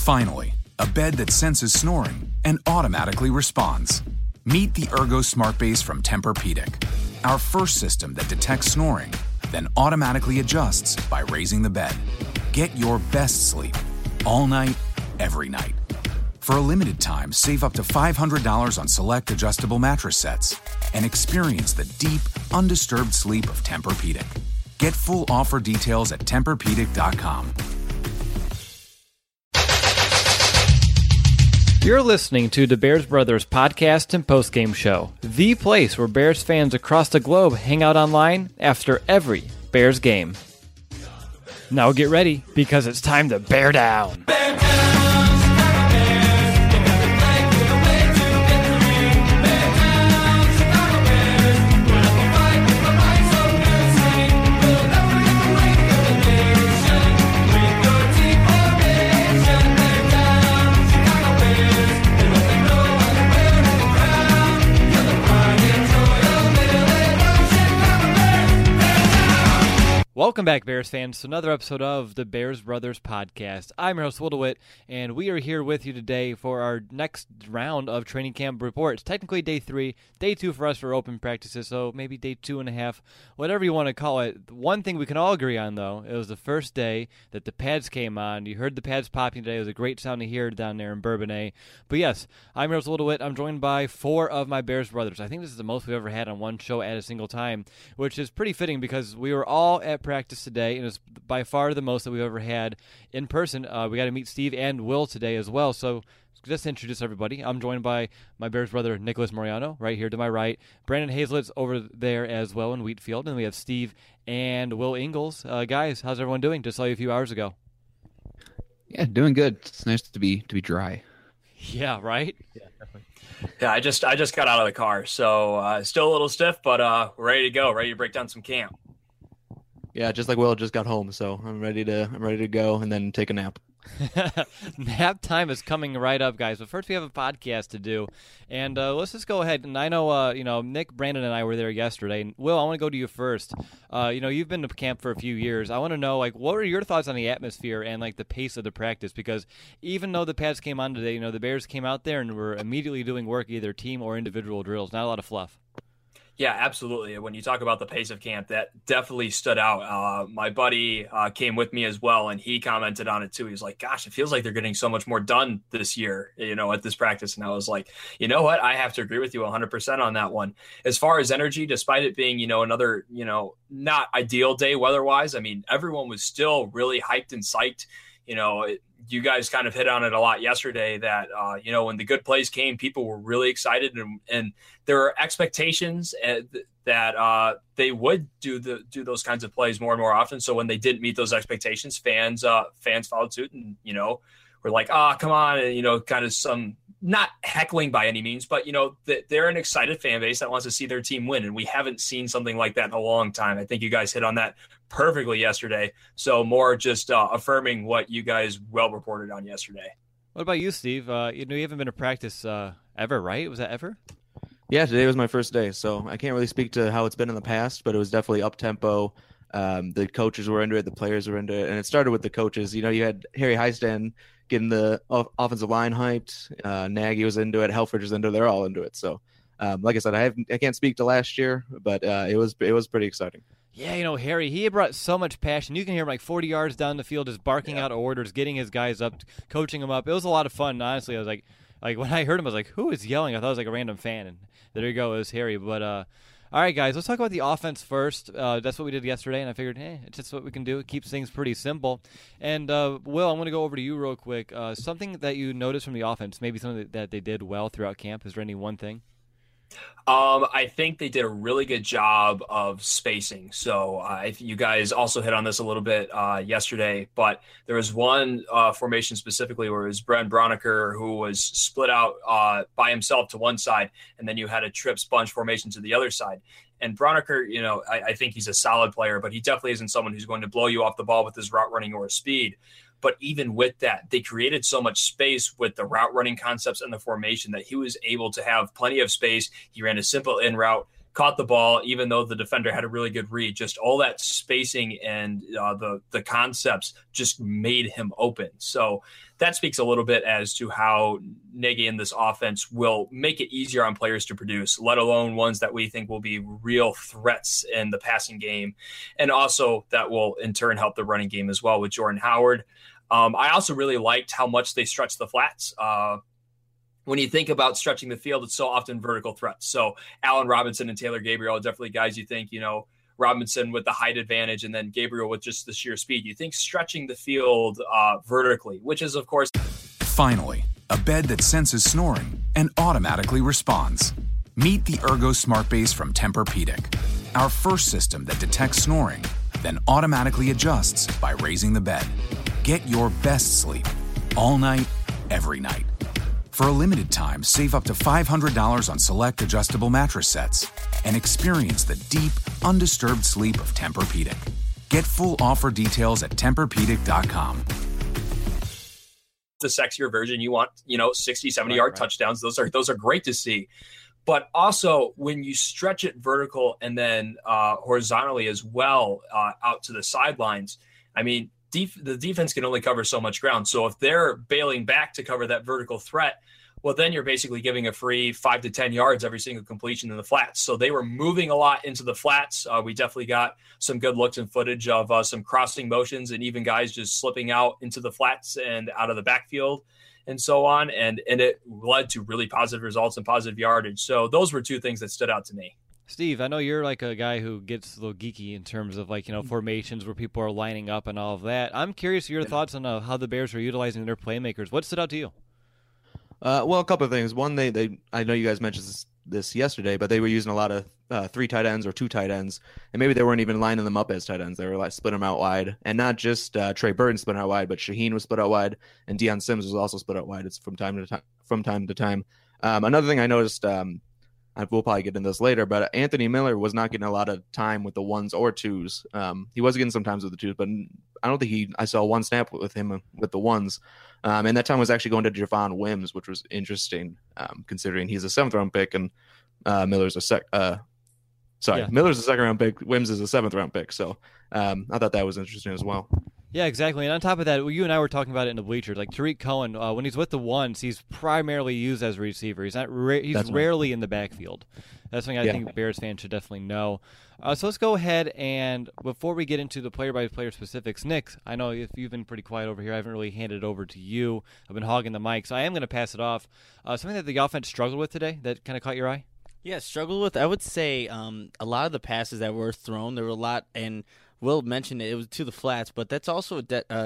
Finally, a bed that senses snoring and automatically responds. Meet the Ergo Smart Base from Tempur-Pedic, our first system that detects snoring, then automatically adjusts by raising the bed. Get your best sleep all night, every night. For a limited time, save up to $500 on select adjustable mattress sets and experience the deep, undisturbed sleep of Tempur-Pedic. Get full offer details at TempurPedic.com. You're listening to the Bears Brothers podcast and postgame show, the place where Bears fans across the globe hang out online after every Bears game. Now get ready, because it's time to bear down. Welcome back, Bears fans, to another episode of the Bears Brothers podcast. I'm your host, Will DeWitt, and we are here with you today for our next round of training camp reports. Technically day 3, day 2 for us for open practices, so maybe day 2.5, whatever you want to call it. One thing we can all agree on, though, it was the first day that the pads came on. You heard the pads popping today. It was a great sound to hear down there in Bourbonnais. But yes, I'm your host, Will DeWitt. I'm joined by 4 of my Bears brothers. I think this is the most we've ever had on one show at a single time, which is pretty fitting because we were all at practice today, and it's by far the most that we've ever had in person. We got to meet Steve and Will today as well. So just to introduce everybody, I'm joined by my Bears brother Nicholas Moriano right here to my right, Brandon Hazlett's over there as well in Wheatfield, and we have Steve and Will Ingalls. Guys, how's everyone doing? Just saw you a few hours ago. Yeah, doing good. It's nice to be dry. Yeah, right? Yeah, definitely. Yeah, I just got out of the car, so still a little stiff, but ready to go, ready to break down some camp. Yeah, just like Will, just got home, so I'm ready to go and then take a nap. Nap time is coming right up, guys. But first, we have a podcast to do, and let's just go ahead. And I know, Nick, Brandon, and I were there yesterday. And Will, I want to go to you first. You've been to camp for a few years. I want to know, what were your thoughts on the atmosphere and the pace of the practice? Because even though the pads came on today, the Bears came out there and were immediately doing work, either team or individual drills. Not a lot of fluff. Yeah, absolutely. When you talk about the pace of camp, that definitely stood out. My buddy came with me as well, and he commented on it too. He was like, gosh, it feels like they're getting so much more done this year, at this practice. And I was like, you know what? I have to agree with you 100% on that one. As far as energy, despite it being, another, not ideal day weather-wise, I mean, everyone was still really hyped and psyched. You guys kind of hit on it a lot yesterday that, when the good plays came, people were really excited and there were expectations that they would do those kinds of plays more and more often. So when they didn't meet those expectations, fans followed suit and, were like, come on. And, kind of some not heckling by any means, but, they're an excited fan base that wants to see their team win. And we haven't seen something like that in a long time. I think you guys hit on that perfectly yesterday. So more just affirming what you guys well reported on yesterday. What about you, Steve? You haven't been to practice ever, right? Was that ever? Yeah, today was my first day, so I can't really speak to how it's been in the past, but it was definitely up-tempo. The coaches were into it, the players were into it, and it started with the coaches. You had Harry Heisten getting the offensive line hyped. Nagy was into it. Helfrich was into it. They're all into it. So, like I said, I can't speak to last year, but it was pretty exciting. Yeah, Harry, he brought so much passion. You can hear him 40 yards down the field just barking out orders, getting his guys up, coaching them up. It was a lot of fun, honestly. I was like when I heard him, I was like, who is yelling? I thought it was a random fan, and there you go, it was Harry. But all right, guys, let's talk about the offense first. That's what we did yesterday, and I figured, it's just what we can do. It keeps things pretty simple. And, Will, I'm going to go over to you real quick. Something that you noticed from the offense, maybe something that they did well throughout camp. Is there any one thing? I think they did a really good job of spacing. So you guys also hit on this a little bit yesterday, but there was one formation specifically where it was Brent Braunecker who was split out by himself to one side, and then you had a trip sponge formation to the other side. And Braunecker, I think he's a solid player, but he definitely isn't someone who's going to blow you off the ball with his route running or his speed. But even with that, they created so much space with the route running concepts and the formation that he was able to have plenty of space. He ran a simple in route, caught the ball, even though the defender had a really good read. Just all that spacing and the concepts just made him open. So that speaks a little bit as to how Nagy in this offense will make it easier on players to produce, let alone ones that we think will be real threats in the passing game. And also that will in turn help the running game as well with Jordan Howard. I also really liked how much they stretched the flats. When you think about stretching the field, it's so often vertical threats. So Allen Robinson and Taylor Gabriel are definitely guys you think, Robinson with the height advantage and then Gabriel with just the sheer speed. You think stretching the field vertically, which is, of course. Finally, a bed that senses snoring and automatically responds. Meet the Ergo Smart Base from Tempur-Pedic, our first system that detects snoring, then automatically adjusts by raising the bed. Get your best sleep all night, every night. For a limited time, save up to $500 on select adjustable mattress sets and experience the deep, undisturbed sleep of Tempur-Pedic. Get full offer details at TempurPedic.com. The sexier version, you want, 60, 70-yard touchdowns. Those are great to see. But also when you stretch it vertical and then horizontally as well out to the sidelines, I mean, the defense can only cover so much ground. So if they're bailing back to cover that vertical threat, well, then you're basically giving a free 5 to 10 yards every single completion in the flats. So they were moving a lot into the flats. We definitely got some good looks and footage of some crossing motions and even guys just slipping out into the flats and out of the backfield and so on. And it led to really positive results and positive yardage. So those were two things that stood out to me. Steve, I know you're like a guy who gets a little geeky in terms of formations where people are lining up and all of that. I'm curious your thoughts on how the Bears are utilizing their playmakers. What stood out to you? Well, a couple of things. One, they I know you guys mentioned this yesterday, but they were using a lot of 3 tight ends or 2 tight ends, and maybe they weren't even lining them up as tight ends. They were splitting them out wide, and not just Trey Burton split out wide, but Shaheen was split out wide, and Deion Sims was also split out wide. It's from time to time. Another thing I noticed. We'll probably get into this later, but Anthony Miller was not getting a lot of time with the 1s or 2s. He was getting some times with the 2s, but I don't think I saw one snap with him with the 1s. And that time was actually going to Javon Wims, which was interesting, considering he's a 7th-round pick and Miller's a Miller's a 2nd-round pick. Wims is a 7th-round pick. So I thought that was interesting as well. Yeah, exactly. And on top of that, you and I were talking about it in the bleachers. Like Tariq Cohen, when he's with the 1s, he's primarily used as a receiver. He's not. He's rarely in the backfield. That's something I think Bears fans should definitely know. So let's go ahead and before we get into the player-by-player specifics, Nick, I know if you've been pretty quiet over here, I haven't really handed it over to you. I've been hogging the mic, so I am going to pass it off. Something that the offense struggled with today that kind of caught your eye? Yeah, struggled with. I would say a lot of the passes that were thrown, there were a lot, and Will mentioned it was to the flats, but that's also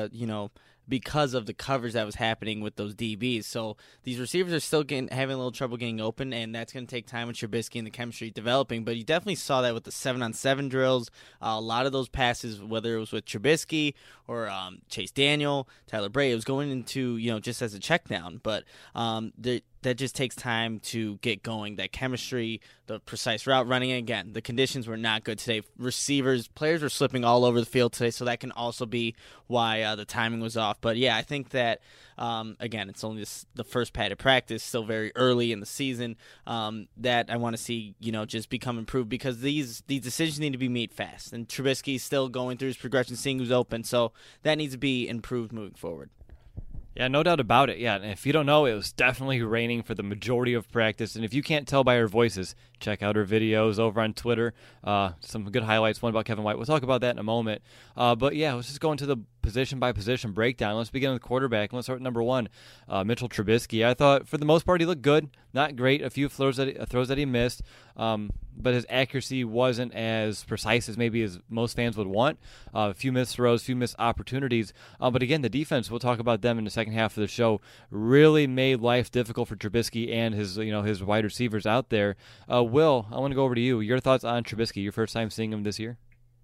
because of the coverage that was happening with those DBs. So these receivers are still having a little trouble getting open, and that's going to take time with Trubisky and the chemistry developing. But you definitely saw that with the 7-on-7 drills. A lot of those passes, whether it was with Trubisky or Chase Daniel, Tyler Bray, it was going into, just as a check down. But that just takes time to get going. That chemistry, the precise route running. Again, the conditions were not good today. Players were slipping all over the field today, so that can also be why the timing was off. But yeah, I think that again, it's only the first padded practice, still very early in the season. That I want to see, just become improved because these decisions need to be made fast. And Trubisky's still going through his progression, seeing who's open, so that needs to be improved moving forward. Yeah, no doubt about it. Yeah, and if you don't know, it was definitely raining for the majority of practice. And if you can't tell by our voices, check out our videos over on Twitter. Some good highlights, one about Kevin White. We'll talk about that in a moment. But yeah, let's just go into the position-by-position breakdown. Let's begin with quarterback. Let's start with number 1, Mitchell Trubisky. I thought, for the most part, he looked good. Not great. A few throws that he missed. But his accuracy wasn't as precise as maybe as most fans would want. A few missed throws, few missed opportunities. But again, the defense, we'll talk about them in the second half of the show, really made life difficult for Trubisky and his wide receivers out there. Will, I want to go over to you. Your thoughts on Trubisky, your first time seeing him this year?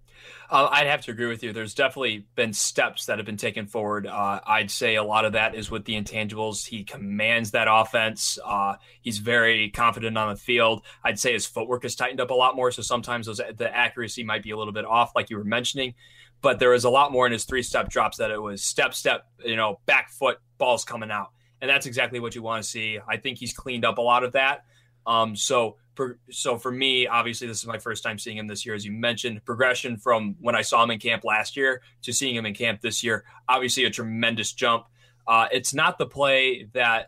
I'd have to agree with you. There's definitely been steps that have been taken forward. I'd say a lot of that is with the intangibles. He commands that offense. He's very confident on the field. I'd say his footwork has tightened up a lot more, so sometimes the accuracy might be a little bit off, like you were mentioning. But there was a lot more in his 3-step drops that it was step, back foot, balls coming out. And that's exactly what you want to see. I think he's cleaned up a lot of that. So So for me, obviously, this is my first time seeing him this year, as you mentioned. Progression from when I saw him in camp last year to seeing him in camp this year, obviously a tremendous jump. It's not the play that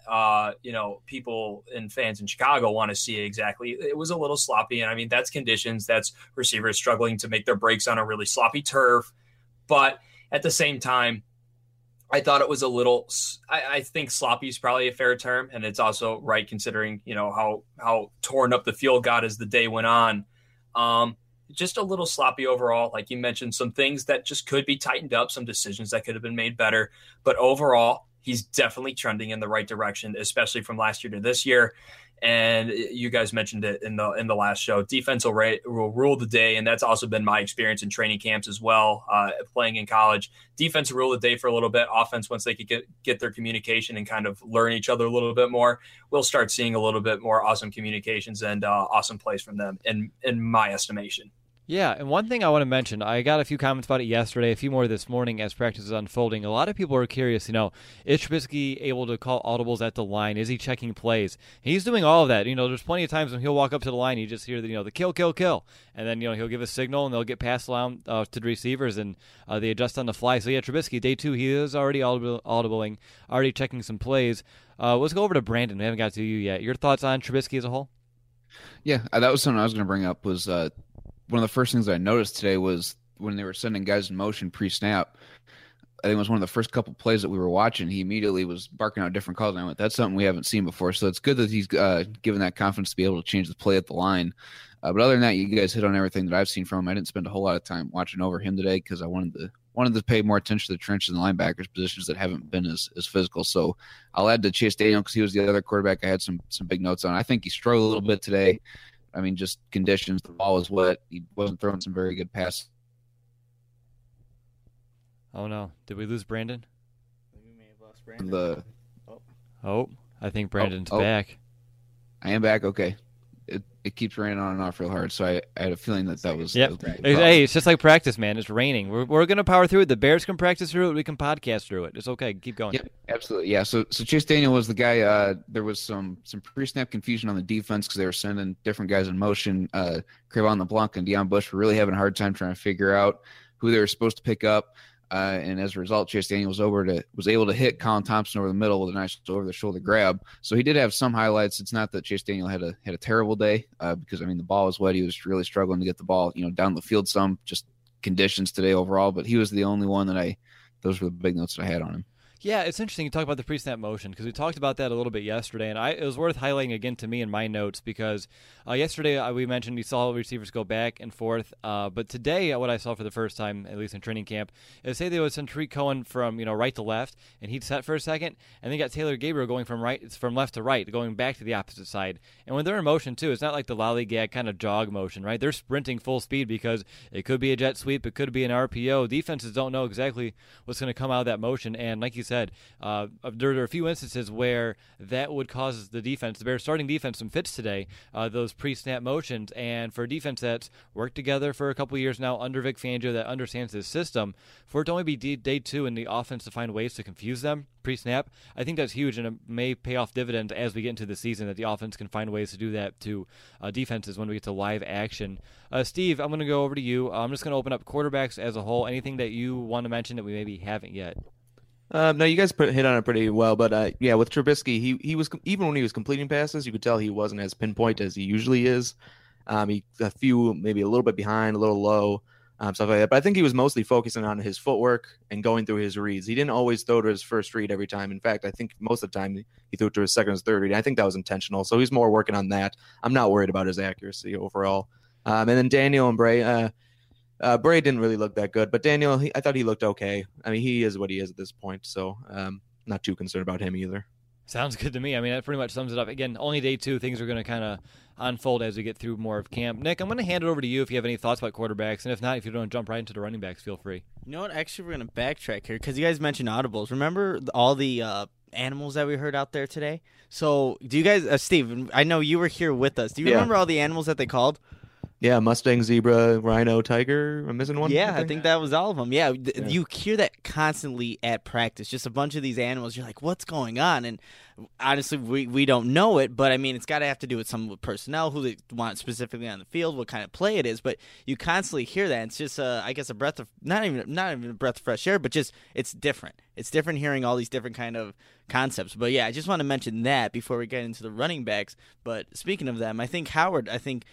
people and fans in Chicago want to see exactly. It was a little sloppy, and I mean that's conditions. That's receivers struggling to make their breaks on a really sloppy turf. But at the same time, I thought it was a little. I think sloppy is probably a fair term, and it's also right considering how torn up the field got as the day went on. Just a little sloppy overall. Like you mentioned, some things that just could be tightened up, some decisions that could have been made better. But overall, he's definitely trending in the right direction, especially from last year to this year. And you guys mentioned it in the last show. Defense will rule the day, and that's also been my experience in training camps as well, playing in college. Defense will rule the day for a little bit. Offense, once they could get their communication and kind of learn each other a little bit more, we'll start seeing a little bit more awesome communications and awesome plays from them, in my estimation. Yeah, and one thing I want to mention, I got a few comments about it yesterday, a few more this morning as practice is unfolding. A lot of people are curious, is Trubisky able to call audibles at the line? Is he checking plays? He's doing all of that. There's plenty of times when he'll walk up to the line, you just hear the kill, kill, kill. And then, he'll give a signal and they'll get passed along to the receivers and they adjust on the fly. So, yeah, Trubisky, day 2, he is already audibling, already checking some plays. Let's go over to Brandon. We haven't got to you yet. Your thoughts on Trubisky as a whole? Yeah, that was something I was going to bring up was one of the first things I noticed today was when they were sending guys in motion pre-snap. I think it was one of the first couple plays that we were watching. He immediately was barking out different calls. And I went, that's something we haven't seen before. So it's good that he's given that confidence to be able to change the play at the line. But other than that, you guys hit on everything that I've seen from him. I didn't spend a whole lot of time watching over him today because I wanted to pay more attention to the trenches and linebackers positions that haven't been as physical. So I'll add to Chase Daniel because he was the other quarterback I had some big notes on. I think he struggled a little bit today. I mean, just conditions. The ball was wet. He wasn't throwing some very good passes. Oh, no. Did we lose Brandon? We may have lost Brandon. I think Brandon's back. I am back? Okay. It keeps raining on and off real hard, so I had a feeling that was... Yep. Hey, it's just like practice, man. It's raining. We're going to power through it. The Bears can practice through it. We can podcast through it. It's okay. Keep going. Yep, absolutely. Yeah, so Chase Daniel was the guy. There was some pre-snap confusion on the defense because they were sending different guys in motion. Crevon LeBlanc and Deion Bush were really having a hard time trying to figure out who they were supposed to pick up. And as a result, Chase Daniel was able to hit Colin Thompson over the middle with a nice over-the-shoulder grab. So he did have some highlights. It's not that Chase Daniel had a terrible day because, I mean, the ball was wet. He was really struggling to get the ball, down the field some, just conditions today overall. But he was the only one those were the big notes that I had on him. Yeah, it's interesting you talk about the pre-snap motion because we talked about that a little bit yesterday, and it was worth highlighting again to me in my notes because yesterday we mentioned we saw receivers go back and forth, but today what I saw for the first time, at least in training camp, is say they would send Tariq Cohen from right to left, and he'd set for a second, and then got Taylor Gabriel going from left to right, going back to the opposite side. And when they're in motion too, it's not like the lollygag kind of jog motion, right? They're sprinting full speed because it could be a jet sweep, it could be an RPO. Defenses don't know exactly what's going to come out of that motion, and like you said, there are a few instances where that would cause the Bears starting defense some fits today, those pre-snap motions. And for a defense that's worked together for a couple of years now under Vic Fangio that understands his system, for it to only be day 2 in the offense to find ways to confuse them pre-snap, I think that's huge, and it may pay off dividends as we get into the season that the offense can find ways to do that to defenses when we get to live action. Steve, I'm going to go over to you. I'm just going to open up quarterbacks as a whole. Anything that you want to mention that we maybe haven't yet? No, you guys hit on it pretty well, but with Trubisky, he was, even when he was completing passes, you could tell he wasn't as pinpoint as he usually is. He a few maybe a little bit behind, a little low, stuff like that. But I think he was mostly focusing on his footwork and going through his reads. He didn't always throw to his first read every time. In fact, I think most of the time he threw to his second or third read. I think that was intentional. So he's more working on that. I'm not worried about his accuracy overall. And then Daniel and Bray. Bray didn't really look that good, but Daniel, I thought he looked okay. I mean, he is what he is at this point, so not too concerned about him either. Sounds good to me. I mean, that pretty much sums it up. Again, only day 2. Things are going to kind of unfold as we get through more of camp. Nick, I'm going to hand it over to you if you have any thoughts about quarterbacks, and if not, if you don't jump right into the running backs, feel free. You know what? Actually, we're going to backtrack here because you guys mentioned audibles. Remember all the animals that we heard out there today? So do you guys, Steve, I know you were here with us. Do you remember all the animals that they called? Yeah, Mustang, zebra, rhino, tiger. I'm missing one. Yeah, I think that was all of them. Yeah, you hear that constantly at practice. Just a bunch of these animals. You're like, what's going on? And honestly, we don't know it, but I mean, it's got to have to do with some personnel, who they want specifically on the field, what kind of play it is. But you constantly hear that. It's just, I guess, a breath of not even a breath of fresh air, but just it's different. It's different hearing all these different kind of concepts. But yeah, I just want to mention that before we get into the running backs. But speaking of them, I think Howard,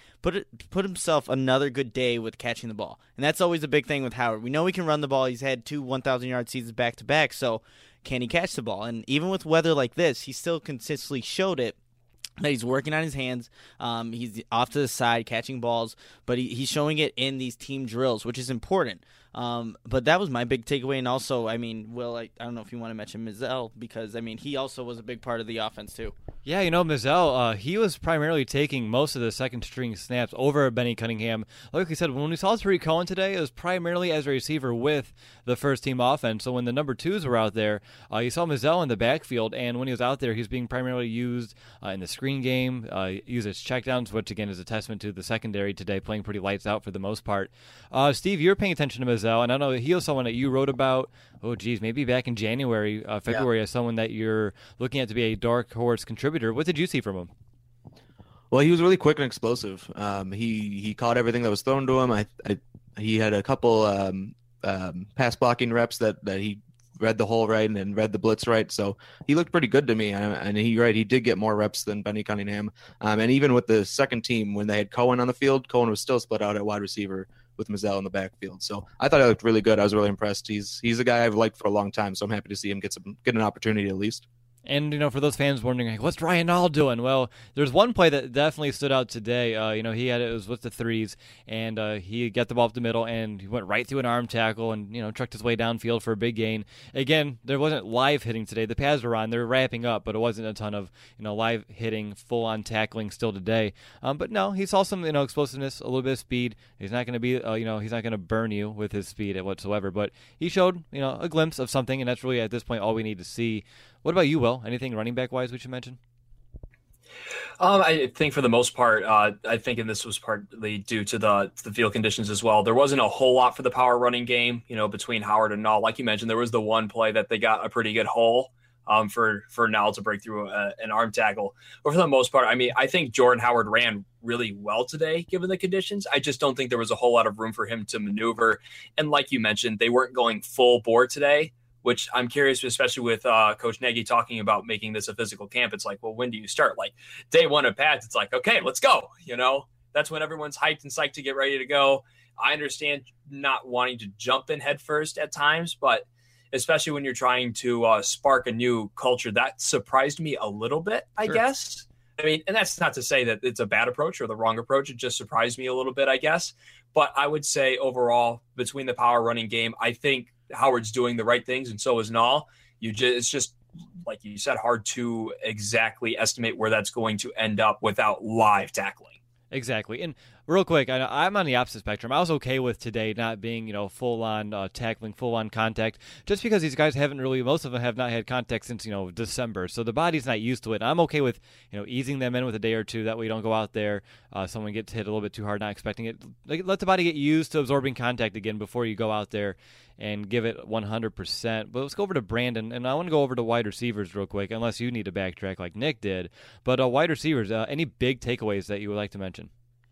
put himself another good day with catching the ball, and that's always a big thing with Howard. We know he can run the ball. He's had 2 1,000-yard seasons back to back, so can he catch the ball? And even with weather like this, he still consistently showed it. That he's working on his hands. He's off to the side catching balls, but he's showing it in these team drills, which is important. But that was my big takeaway. And also, I mean, Will, I don't know if you want to mention Mizell, because, I mean, he also was a big part of the offense, too. Yeah, Mizell, he was primarily taking most of the second-string snaps over Benny Cunningham. Like we said, when we saw Tariq Cohen today, it was primarily as a receiver with the first-team offense. So when the number 2s were out there, you saw Mizell in the backfield, and when he was out there, he was being primarily used in the screen game, used as checkdowns, which, again, is a testament to the secondary today, playing pretty lights out for the most part. Steve, you're paying attention to Mizell, and I know he was someone that you wrote about, maybe back in January, February, as someone that you're looking at to be a dark horse contributor. What did you see from him? Well, he was really quick and explosive. He caught everything that was thrown to him. He had a couple pass blocking reps that he read the hole right and read the blitz right. So he looked pretty good to me. And he did get more reps than Benny Cunningham. And even with the second team, when they had Cohen on the field, Cohen was still split out at wide receiver with Mizell in the backfield. So I thought he looked really good. I was really impressed. He's a guy I've liked for a long time, so I'm happy to see him get an opportunity at least. And, for those fans wondering, like, what's Ryan Nall doing? Well, there's one play that definitely stood out today. It was with the 3s, and he got the ball up the middle, and he went right through an arm tackle and, trucked his way downfield for a big gain. Again, there wasn't live hitting today. The pads were on. They were wrapping up, but it wasn't a ton of, live hitting, full-on tackling still today. But no, he saw some, explosiveness, a little bit of speed. He's not going to be, he's not going to burn you with his speed whatsoever, but he showed, a glimpse of something, and that's really, at this point, all we need to see. What about you, Will? Anything running back wise we should mention? I think for the most part, I think, and this was partly due to the field conditions as well, there wasn't a whole lot for the power running game, between Howard and Nall. Like you mentioned, there was the one play that they got a pretty good hole for Nall to break through an arm tackle. But for the most part, I mean, I think Jordan Howard ran really well today, given the conditions. I just don't think there was a whole lot of room for him to maneuver. And like you mentioned, they weren't going full bore today, which I'm curious, especially with Coach Nagy talking about making this a physical camp. It's like, well, when do you start? Like day one of pads, it's like, okay, let's go. That's when everyone's hyped and psyched to get ready to go. I understand not wanting to jump in head first at times, but especially when you're trying to spark a new culture, that surprised me a little bit, I guess. I mean, and that's not to say that it's a bad approach or the wrong approach. It just surprised me a little bit, I guess. But I would say overall, between the power running game, I think Howard's doing the right things, and so is Nall. It's just, like you said, hard to exactly estimate where that's going to end up without live tackling. Exactly. And real quick, I'm on the opposite spectrum. I was okay with today not being, full-on tackling, full-on contact, just because these guys most of them have not had contact since, December. So the body's not used to it. And I'm okay with, easing them in with a day or two. That way you don't go out there, someone gets hit a little bit too hard, not expecting it. Let the body get used to absorbing contact again before you go out there and give it 100%. But let's go over to Brandon, and I want to go over to wide receivers real quick, unless you need to backtrack like Nick did. But wide receivers, any big takeaways that you would like to mention?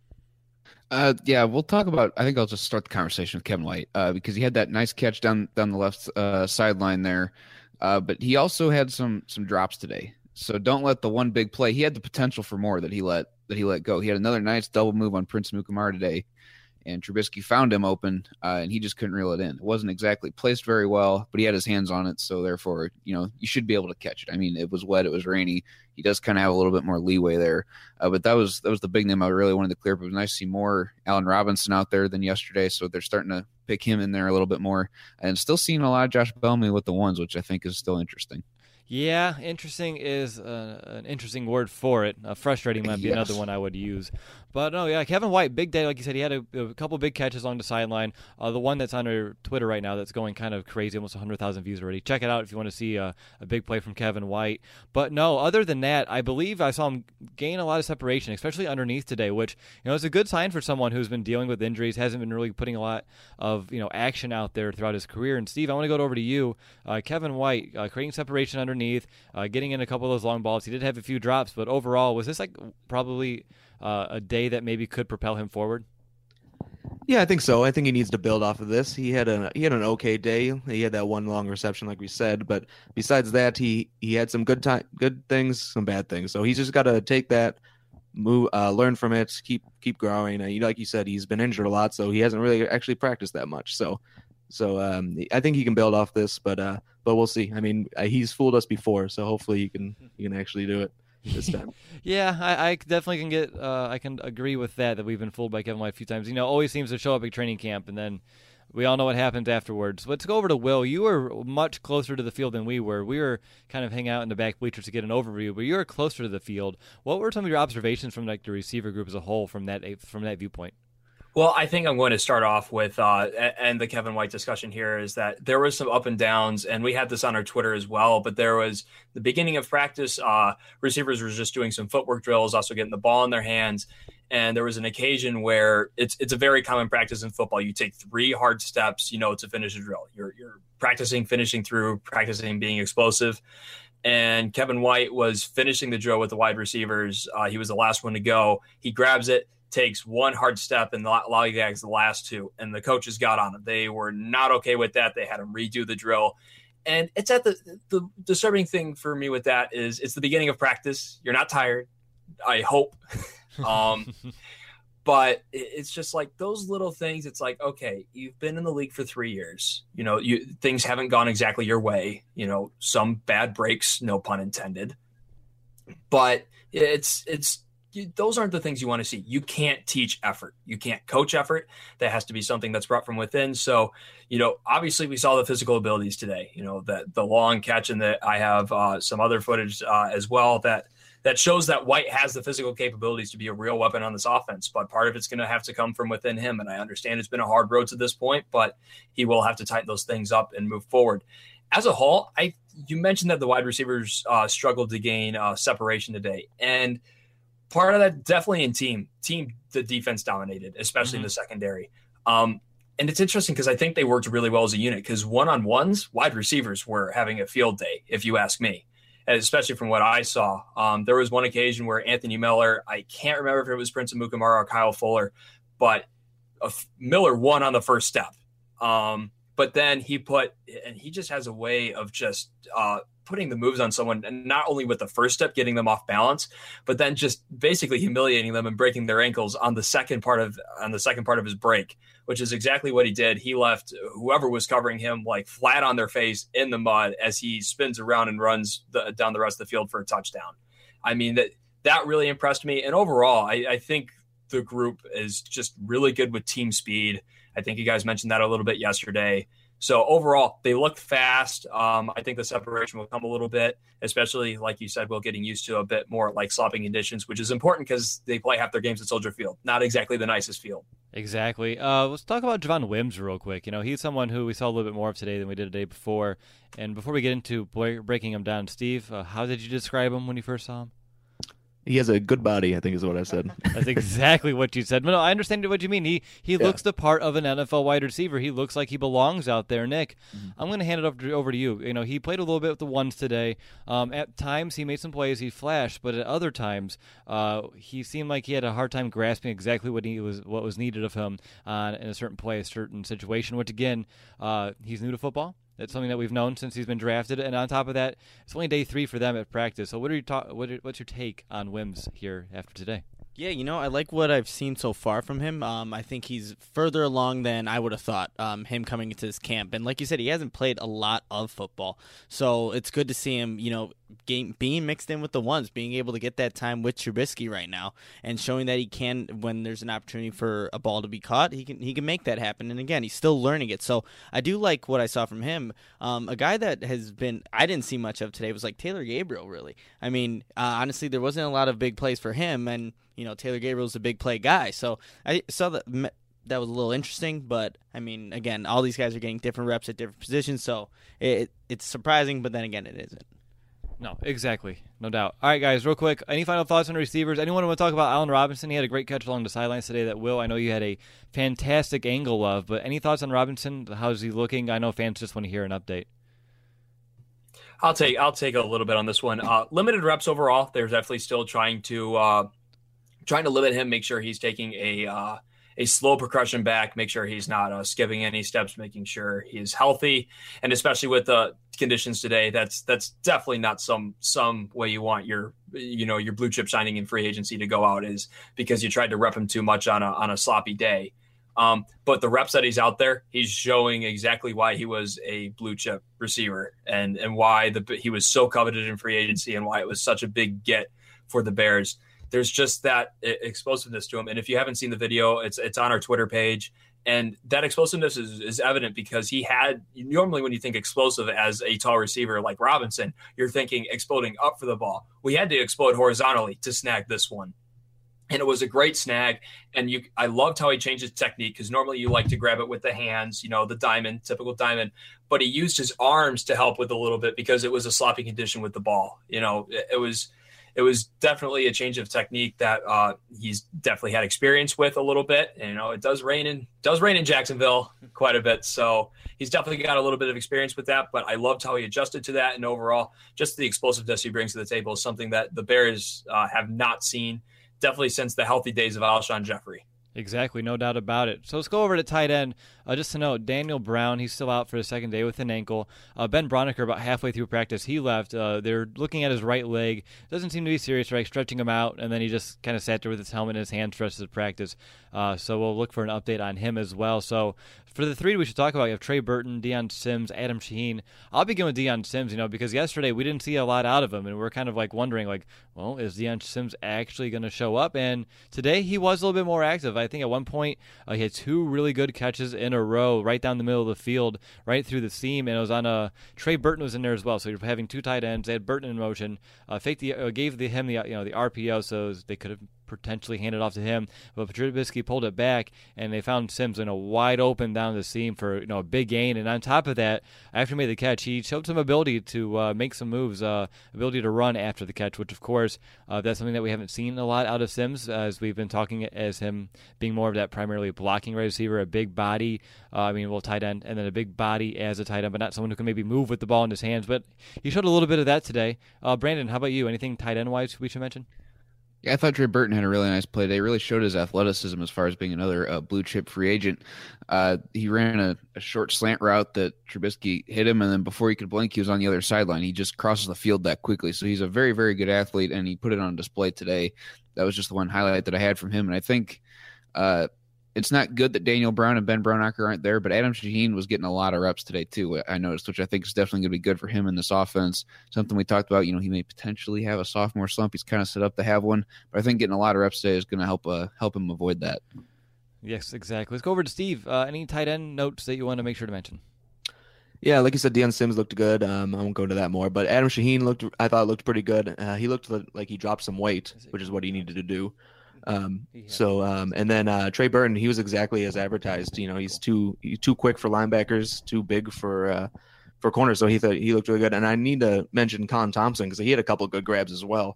Yeah, we'll talk about. I think I'll just start the conversation with Kevin White because he had that nice catch down the left sideline there, but he also had some drops today. So don't let the one big play. He had the potential for more that he let go. He had another nice double move on Prince Mukamara today, and Trubisky found him open, and he just couldn't reel it in. It wasn't exactly placed very well, but he had his hands on it, so therefore, you should be able to catch it. I mean, it was wet, it was rainy. He does kind of have a little bit more leeway there, but that was the big name I really wanted to clear up. It was nice to see more Allen Robinson out there than yesterday, so they're starting to pick him in there a little bit more, and still seeing a lot of Josh Bellamy with the ones, which I think is still interesting. Yeah, interesting is an interesting word for it. Frustrating might be another one I would use. But no, yeah, Kevin White, big day. Like you said, he had a couple big catches along the sideline. The one that's on our Twitter right now that's going kind of crazy, almost 100,000 views already. Check it out if you want to see a big play from Kevin White. But no, other than that, I believe I saw him gain a lot of separation, especially underneath today, which is a good sign for someone who's been dealing with injuries, hasn't been really putting a lot of action out there throughout his career. And Steve, I want to go over to you. Kevin White creating separation underneath, getting in a couple of those long balls. He did have a few drops, but overall, was this like probably a day that maybe could propel him forward? Yeah, I think so. I think he needs to build off of this. He had an okay day. He had that one long reception, like we said, but besides that, he had some good things, some bad things. So he's just got to take that, move, learn from it, keep growing. Like you said, he's been injured a lot, so he hasn't really actually practiced that much. So I think he can build off this, but we'll see. I mean, he's fooled us before, so hopefully he can actually do it this time. Yeah, I definitely can get. I can agree with that we've been fooled by Kevin White a few times. Always seems to show up at training camp, and then we all know what happens afterwards. Let's go over to Will. You were much closer to the field than we were. We were kind of hanging out in the back bleachers to get an overview, but you were closer to the field. What were some of your observations from like the receiver group as a whole from that viewpoint? Well, I think I'm going to start off with, and the Kevin White discussion here is that there was some up and downs, and we had this on our Twitter as well, but there was the beginning of practice, receivers were just doing some footwork drills, also getting the ball in their hands, and there was an occasion where it's a very common practice in football. You take 3 hard steps, to finish a drill. You're practicing finishing through, practicing being explosive. And Kevin White was finishing the drill with the wide receivers. He was the last one to go. He grabs it, takes 1 hard step, and lollygags the last 2. And the coaches got on him. They were not okay with that. They had him redo the drill. And it's at the disturbing thing for me with that is it's the beginning of practice. You're not tired, I hope. But it's just like those little things. It's like, okay, you've been in the league for 3 years. Things haven't gone exactly your way. Some bad breaks, no pun intended. But those aren't the things you want to see. You can't teach effort. You can't coach effort. That has to be something that's brought from within. So, obviously we saw the physical abilities today, that the long catch, and that I have some other footage as well that shows that White has the physical capabilities to be a real weapon on this offense, but part of it's going to have to come from within him. And I understand it's been a hard road to this point, but he will have to tighten those things up and move forward. As a whole, you mentioned that the wide receivers struggled to gain separation today. And part of that definitely in team, the defense dominated, especially in the secondary. And it's interesting because I think they worked really well as a unit because one-on-ones, wide receivers were having a field day, if you ask me, especially from what I saw. There was one occasion where Anthony Miller, I can't remember if it was Prince Amukamara or Kyle Fuller, but Miller won on the first step. But then he just has a way of just putting the moves on someone, and not only with the first step, getting them off balance, but then just basically humiliating them and breaking their ankles on the second part of his break, which is exactly what he did. He left whoever was covering him like flat on their face in the mud as he spins around and runs down the rest of the field for a touchdown. I mean, that really impressed me. And overall, I think the group is just really good with team speed. I think you guys mentioned that a little bit yesterday. So overall, they look fast. I think the separation will come a little bit, especially like you said, Will, getting used to a bit more like slopping conditions, which is important because they play half their games at Soldier Field. Not exactly the nicest field. Exactly. Let's talk about Javon Wims real quick. He's someone who we saw a little bit more of today than we did the day before. And before we get into breaking him down, Steve, how did you describe him when you first saw him? He has a good body, I think is what I said. That's exactly what you said. But no, I understand what you mean. He looks the part of an NFL wide receiver. He looks like he belongs out there. Nick, I'm going to hand it over to you. He played a little bit with the ones today. At times, he made some plays. He flashed. But at other times, he seemed like he had a hard time grasping exactly what was needed of him in a certain play, a certain situation, which, again, he's new to football. That's something that we've known since he's been drafted, and on top of that, it's only day 3 for them at practice. So, what's your take on Wims here after today? Yeah, I like what I've seen so far from him. I think he's further along than I would have thought, him coming into this camp. And like you said, he hasn't played a lot of football. So it's good to see him, being mixed in with the ones, being able to get that time with Trubisky right now, and showing that he can, when there's an opportunity for a ball to be caught, he can make that happen. And again, he's still learning it. So I do like what I saw from him. A guy that I didn't see much of today was like Taylor Gabriel. Really, I mean, honestly, there wasn't a lot of big plays for him, and Taylor Gabriel's a big play guy. So I saw that was a little interesting, but I mean, again, all these guys are getting different reps at different positions, so it's surprising, but then again, it isn't. No, exactly. No doubt. All right, guys, real quick, any final thoughts on receivers? Anyone want to talk about Allen Robinson? He had a great catch along the sidelines today that, Will, I know you had a fantastic angle of, but any thoughts on Robinson? How's he looking? I know fans just want to hear an update. I'll take a little bit on this one. Limited reps overall. They're definitely still trying to limit him, make sure he's taking a slow progression back, make sure he's not skipping any steps, making sure he's healthy. And especially with the conditions today, that's definitely not some way you want your blue chip signing in free agency to go out, is because you tried to rep him too much on a sloppy day. But the reps that he's out there, he's showing exactly why he was a blue chip receiver and why he was so coveted in free agency and why it was such a big get for the Bears. There's just that explosiveness to him. And if you haven't seen the video, it's on our Twitter page. And that explosiveness is evident because normally when you think explosive as a tall receiver like Robinson, you're thinking exploding up for the ball. We had to explode horizontally to snag this one. And it was a great snag. And I loved how he changed his technique, because normally you like to grab it with the hands, the diamond, typical diamond. But he used his arms to help with a little bit because it was a sloppy condition with the ball. It was definitely a change of technique that he's definitely had experience with a little bit. And, it does rain in Jacksonville quite a bit. So he's definitely got a little bit of experience with that. But I loved how he adjusted to that. And overall, just the explosiveness he brings to the table is something that the Bears have not seen, definitely since the healthy days of Alshon Jeffrey. Exactly, no doubt about it. So let's go over to tight end. Just to note, Daniel Brown, he's still out for the second day with an ankle. Ben Braunecker, about halfway through practice, he left. They're looking at his right leg. Doesn't seem to be serious, right? Stretching him out, and then he just kind of sat there with his helmet in his hand, stretched at practice. So we'll look for an update on him as well. So for the three we should talk about, you have Trey Burton, Deion Sims, Adam Shaheen. I'll begin with Deion Sims, because yesterday we didn't see a lot out of him, and we're kind of wondering, well, is Deion Sims actually going to show up? And today he was a little bit more active. I think at one point he had two really good catches in a row right down the middle of the field, right through the seam, and it was on Trey Burton was in there as well. So you're having two tight ends. They had Burton in motion, gave him the RPO so they could have potentially handed off to him, but Trubisky pulled it back, and they found Sims wide open down the seam for a big gain. And on top of that, after he made the catch, he showed some ability to make some moves, ability to run after the catch, which of course that's something that we haven't seen a lot out of Sims, as we've been talking as him being more of that primarily blocking receiver, a big body, tight end, and then a big body as a tight end, but not someone who can maybe move with the ball in his hands. But he showed a little bit of that today. Brandon, how about you? Anything tight end wise we should mention? Yeah, I thought Trey Burton had a really nice play today. Really showed his athleticism as far as being another blue chip free agent. He ran a short slant route that Trubisky hit him, and then before he could blink, he was on the other sideline. He just crosses the field that quickly. So he's a very, very good athlete, and he put it on display today. That was just the one highlight that I had from him. And I think it's not good that Daniel Brown and Ben Braunecker aren't there, but Adam Shaheen was getting a lot of reps today too, I noticed, which I think is definitely going to be good for him in this offense. Something we talked about, he may potentially have a sophomore slump. He's kind of set up to have one, but I think getting a lot of reps today is going to help him avoid that. Yes, exactly. Let's go over to Steve. Any tight end notes that you want to make sure to mention? Yeah, like you said, Deion Sims looked good. I won't go into that more, but Adam Shaheen I thought looked pretty good. He looked like he dropped some weight, which is what he needed to do. And then Trey Burton, he was exactly as advertised. He's too quick for linebackers, too big for corners. So he looked really good. And I need to mention Colin Thompson because he had a couple of good grabs as well.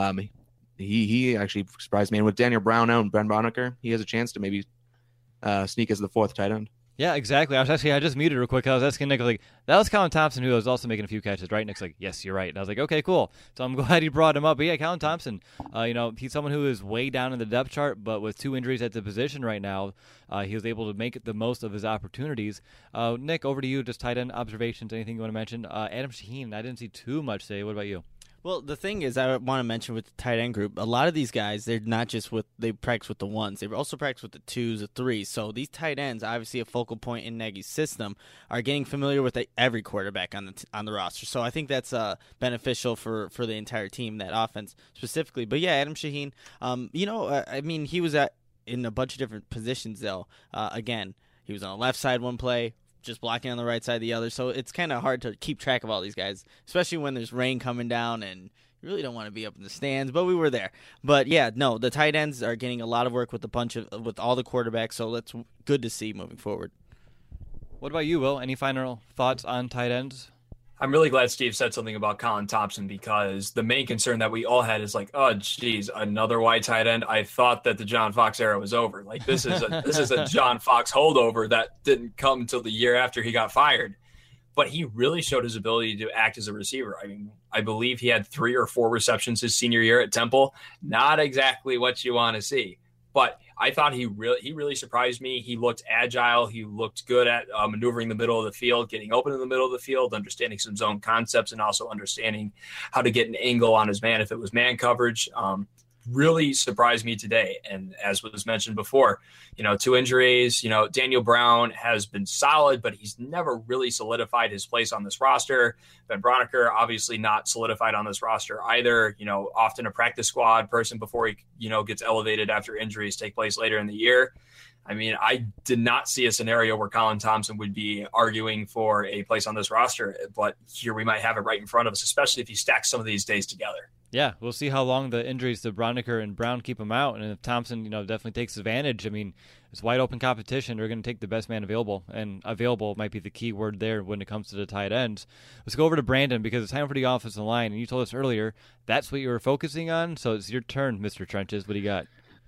He actually surprised me. And with Daniel Brown out and Ben Braunecker, he has a chance to maybe sneak as the fourth tight end. Yeah, exactly. I just muted real quick. I was asking Nick, that was Colin Thompson, who was also making a few catches, right? Nick's like, yes, you're right. And I was like, okay, cool. So I'm glad he brought him up. But yeah, Colin Thompson, he's someone who is way down in the depth chart, but with two injuries at the position right now, he was able to make the most of his opportunities. Nick, over to you. Just tight end observations. Anything you want to mention? Adam Shaheen, I didn't see too much today. What about you? Well, the thing is, I want to mention with the tight end group, a lot of these guys, they're not just they practice with the ones, they also practice with the twos, the threes. So these tight ends, obviously a focal point in Nagy's system, are getting familiar with every quarterback on the roster. So I think that's beneficial for the entire team, that offense specifically. But yeah, Adam Shaheen, I mean, he was in a bunch of different positions though. Again, he was on the left side one play, just blocking on the right side the other. So it's kind of hard to keep track of all these guys, especially when there's rain coming down and you really don't want to be up in the stands, but we were there. But yeah, no, the tight ends are getting a lot of work with with all the quarterbacks, so that's good to see moving forward. What about you, Will? Any final thoughts on tight ends? I'm really glad Steve said something about Colin Thompson, because the main concern that we all had is like, oh, geez, another white tight end. I thought that the John Fox era was over. Like, this is a John Fox holdover that didn't come until the year after he got fired. But he really showed his ability to act as a receiver. I mean, I believe he had 3 or 4 receptions his senior year at Temple. Not exactly what you want to see. But I thought he really surprised me. He looked agile. He looked good at maneuvering the middle of the field, getting open in the middle of the field, understanding some zone concepts, and also understanding how to get an angle on his man if it was man coverage. Really surprised me today. And as was mentioned before, 2 injuries, Daniel Brown has been solid, but he's never really solidified his place on this roster. Ben Broniker, obviously not solidified on this roster either, often a practice squad person before he, gets elevated after injuries take place later in the year. I mean, I did not see a scenario where Colin Thompson would be arguing for a place on this roster, but here we might have it right in front of us, especially if you stack some of these days together. Yeah, we'll see how long the injuries to Broniker and Brown keep him out, and if Thompson, definitely takes advantage. I mean, it's wide open competition. They're going to take the best man available, and available might be the key word there when it comes to the tight ends. Let's go over to Brandon, because it's time for the offensive line, and you told us earlier that's what you were focusing on, so it's your turn, Mr. Trenches. What do you got?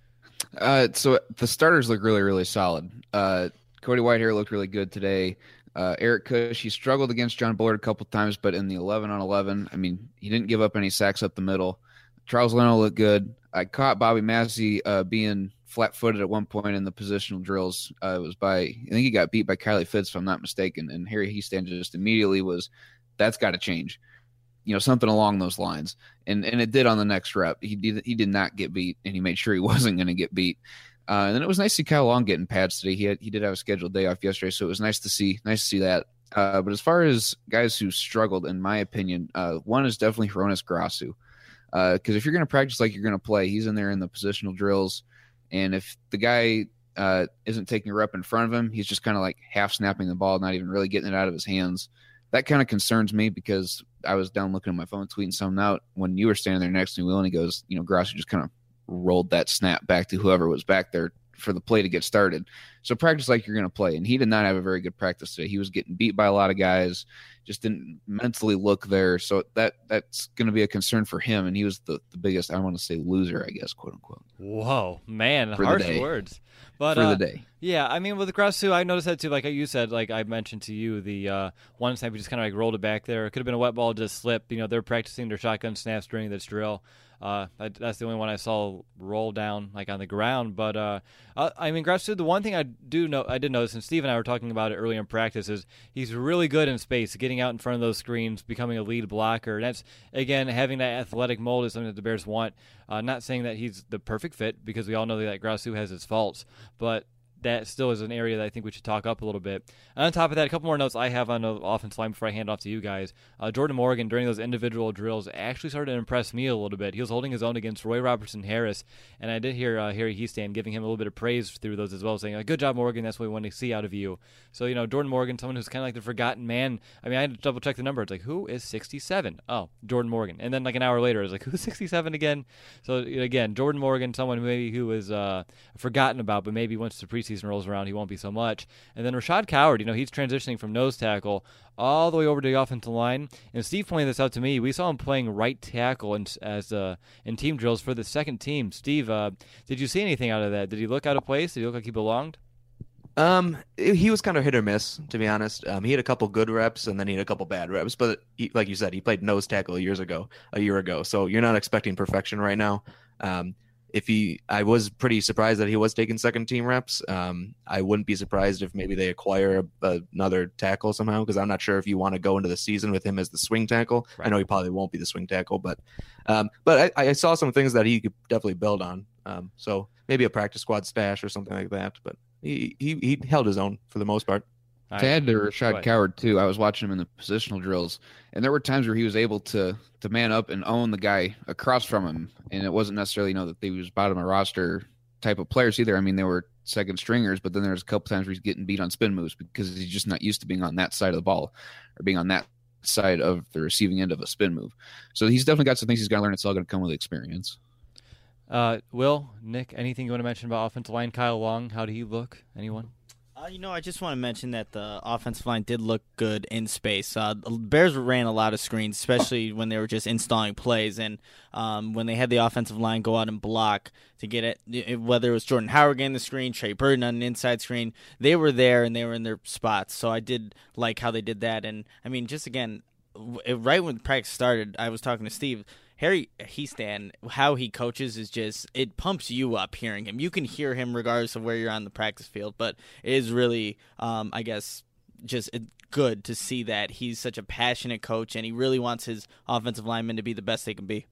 So the starters look really, really solid. Cody Whitehair looked really good today. Eric Kush, he struggled against John Bullard a couple times, but in the 11-on-11, I mean, he didn't give up any sacks up the middle. Charles Leno looked good. I caught Bobby Massey being flat-footed at one point in the positional drills. It was I think he got beat by Kylie Fitz, if I'm not mistaken, and Harry Hiestand just immediately that's got to change. Something along those lines. And it did on the next rep. He did not get beat, and he made sure he wasn't going to get beat. And then it was nice to see Kyle Long getting pads today. He did have a scheduled day off yesterday, so it was nice to see that. But as far as guys who struggled, in my opinion, one is definitely Hronis Grasu. Because if you're going to practice like you're going to play, he's in there in the positional drills. And if the guy isn't taking a rep in front of him, he's just kind of like half snapping the ball, not even really getting it out of his hands. That kind of concerns me, because I was down looking at my phone, tweeting something out when you were standing there next to me, Will, and he goes, Grasu just kind of rolled that snap back to whoever was back there for the play to get started. So practice like you're going to play. And he did not have a very good practice today. He was getting beat by a lot of guys, just didn't mentally look there. So that's going to be a concern for him. And he was the biggest, I want to say, loser, I guess, quote unquote. Whoa, man, harsh words. But for the day. Yeah, I mean, with the Grasu, I noticed that too. Like you said, like I mentioned to you, the one snap, he just kind of like rolled it back there. It could have been a wet ball, just slipped. They're practicing their shotgun snaps during this drill. That's the only one I saw roll down like on the ground. But I mean, Grasu, the one thing I did notice, and Steve and I were talking about it earlier in practice, is he's really good in space, getting out in front of those screens, becoming a lead blocker. And that's, again, having that athletic mold is something that the Bears want. Not saying that he's the perfect fit, because we all know that Grasu has his faults, but that still is an area that I think we should talk up a little bit. And on top of that, a couple more notes I have on the offensive line before I hand off to you guys. Jordan Morgan, during those individual drills, actually started to impress me a little bit. He was holding his own against Roy Robertson Harris, and I did hear Harry Hiestand giving him a little bit of praise through those as well, saying, good job, Morgan, that's what we want to see out of you. So, Jordan Morgan, someone who's kind of like the forgotten man. I mean, I had to double-check the number. It's like, who is 67? Oh, Jordan Morgan. And then like an hour later, I was like, who's 67 again? So, again, Jordan Morgan, someone who is forgotten about, but maybe once the preseason rolls around, he won't be so much. And then Rashad Coward, he's transitioning from nose tackle all the way over to the offensive line. And Steve pointed this out to me. We saw him playing right tackle in team drills for the second team. Steve, did you see anything out of that? Did he look out of place? Did he look like he belonged? He was kind of hit or miss, to be honest. He had a couple good reps, and then he had a couple bad reps. But like you said, he played nose tackle a year ago. So you're not expecting perfection right now. I was pretty surprised that he was taking second team reps. I wouldn't be surprised if maybe they acquire another tackle somehow, because I'm not sure if you want to go into the season with him as the swing tackle. Right. I know he probably won't be the swing tackle, but I saw some things that he could definitely build on. So maybe a practice squad stash or something like that. But he held his own for the most part. To add to Rashad Coward too, I was watching him in the positional drills, and there were times where he was able to man up and own the guy across from him, and it wasn't necessarily that he was bottom of roster type of players either. I mean, they were second stringers, but then there was a couple times where he's getting beat on spin moves because he's just not used to being on that side of the ball or being on that side of the receiving end of a spin move. So he's definitely got some things he's got to learn. It's all going to come with experience. Will, Nick, anything you want to mention about offensive line? Kyle Long, how did he look? Anyone? I just want to mention that the offensive line did look good in space. The Bears ran a lot of screens, especially when they were just installing plays. And when they had the offensive line go out and block to get it, whether it was Jordan Howard getting the screen, Trey Burton on an inside screen, they were there and they were in their spots. So I did like how they did that. And, I mean, just again, right when practice started, I was talking to Steve. Harry Hiestand, how he coaches is just, it pumps you up hearing him. You can hear him regardless of where you're on the practice field, but it is really, I guess, just good to see that he's such a passionate coach and he really wants his offensive linemen to be the best they can be.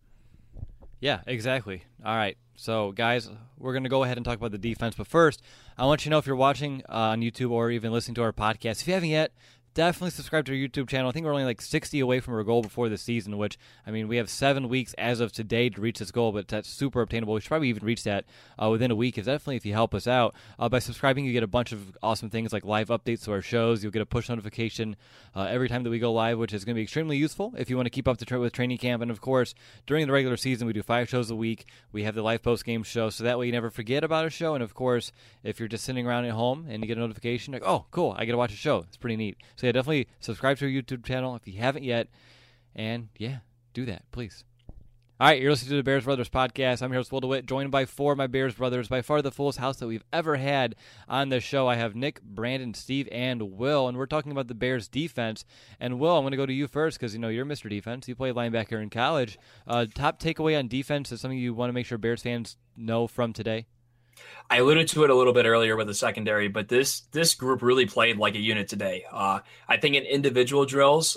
Yeah, exactly. All right. So, guys, we're going to go ahead and talk about the defense, but first, I want you to know if you're watching on YouTube or even listening to our podcast, if you haven't yet, definitely subscribe to our YouTube channel. I think we're only like 60 away from our goal before the season, which, I mean, we have 7 weeks as of today to reach this goal, but that's super obtainable. We should probably even reach that within a week. Definitely if you help us out. By subscribing, you get a bunch of awesome things like live updates to our shows. You'll get a push notification every time that we go live, which is going to be extremely useful if you want to keep up with training camp. And, of course, during the regular season, we do 5 shows a week. We have the live post-game show, so that way you never forget about a show. And, of course, if you're just sitting around at home and you get a notification, like, oh, cool, I get to watch a show. It's pretty neat. So, yeah, definitely subscribe to our YouTube channel if you haven't yet. And, yeah, do that, please. All right, you're listening to the Bears Brothers podcast. I'm your host, Will DeWitt, joined by 4 of my Bears brothers, by far the fullest house that we've ever had on this show. I have Nick, Brandon, Steve, and Will, and we're talking about the Bears defense. And, Will, I'm going to go to you first because, you're Mr. Defense. You played linebacker in college. Top takeaway on defense is something you want to make sure Bears fans know from today? I alluded to it a little bit earlier with the secondary, but this group really played like a unit today. I think in individual drills,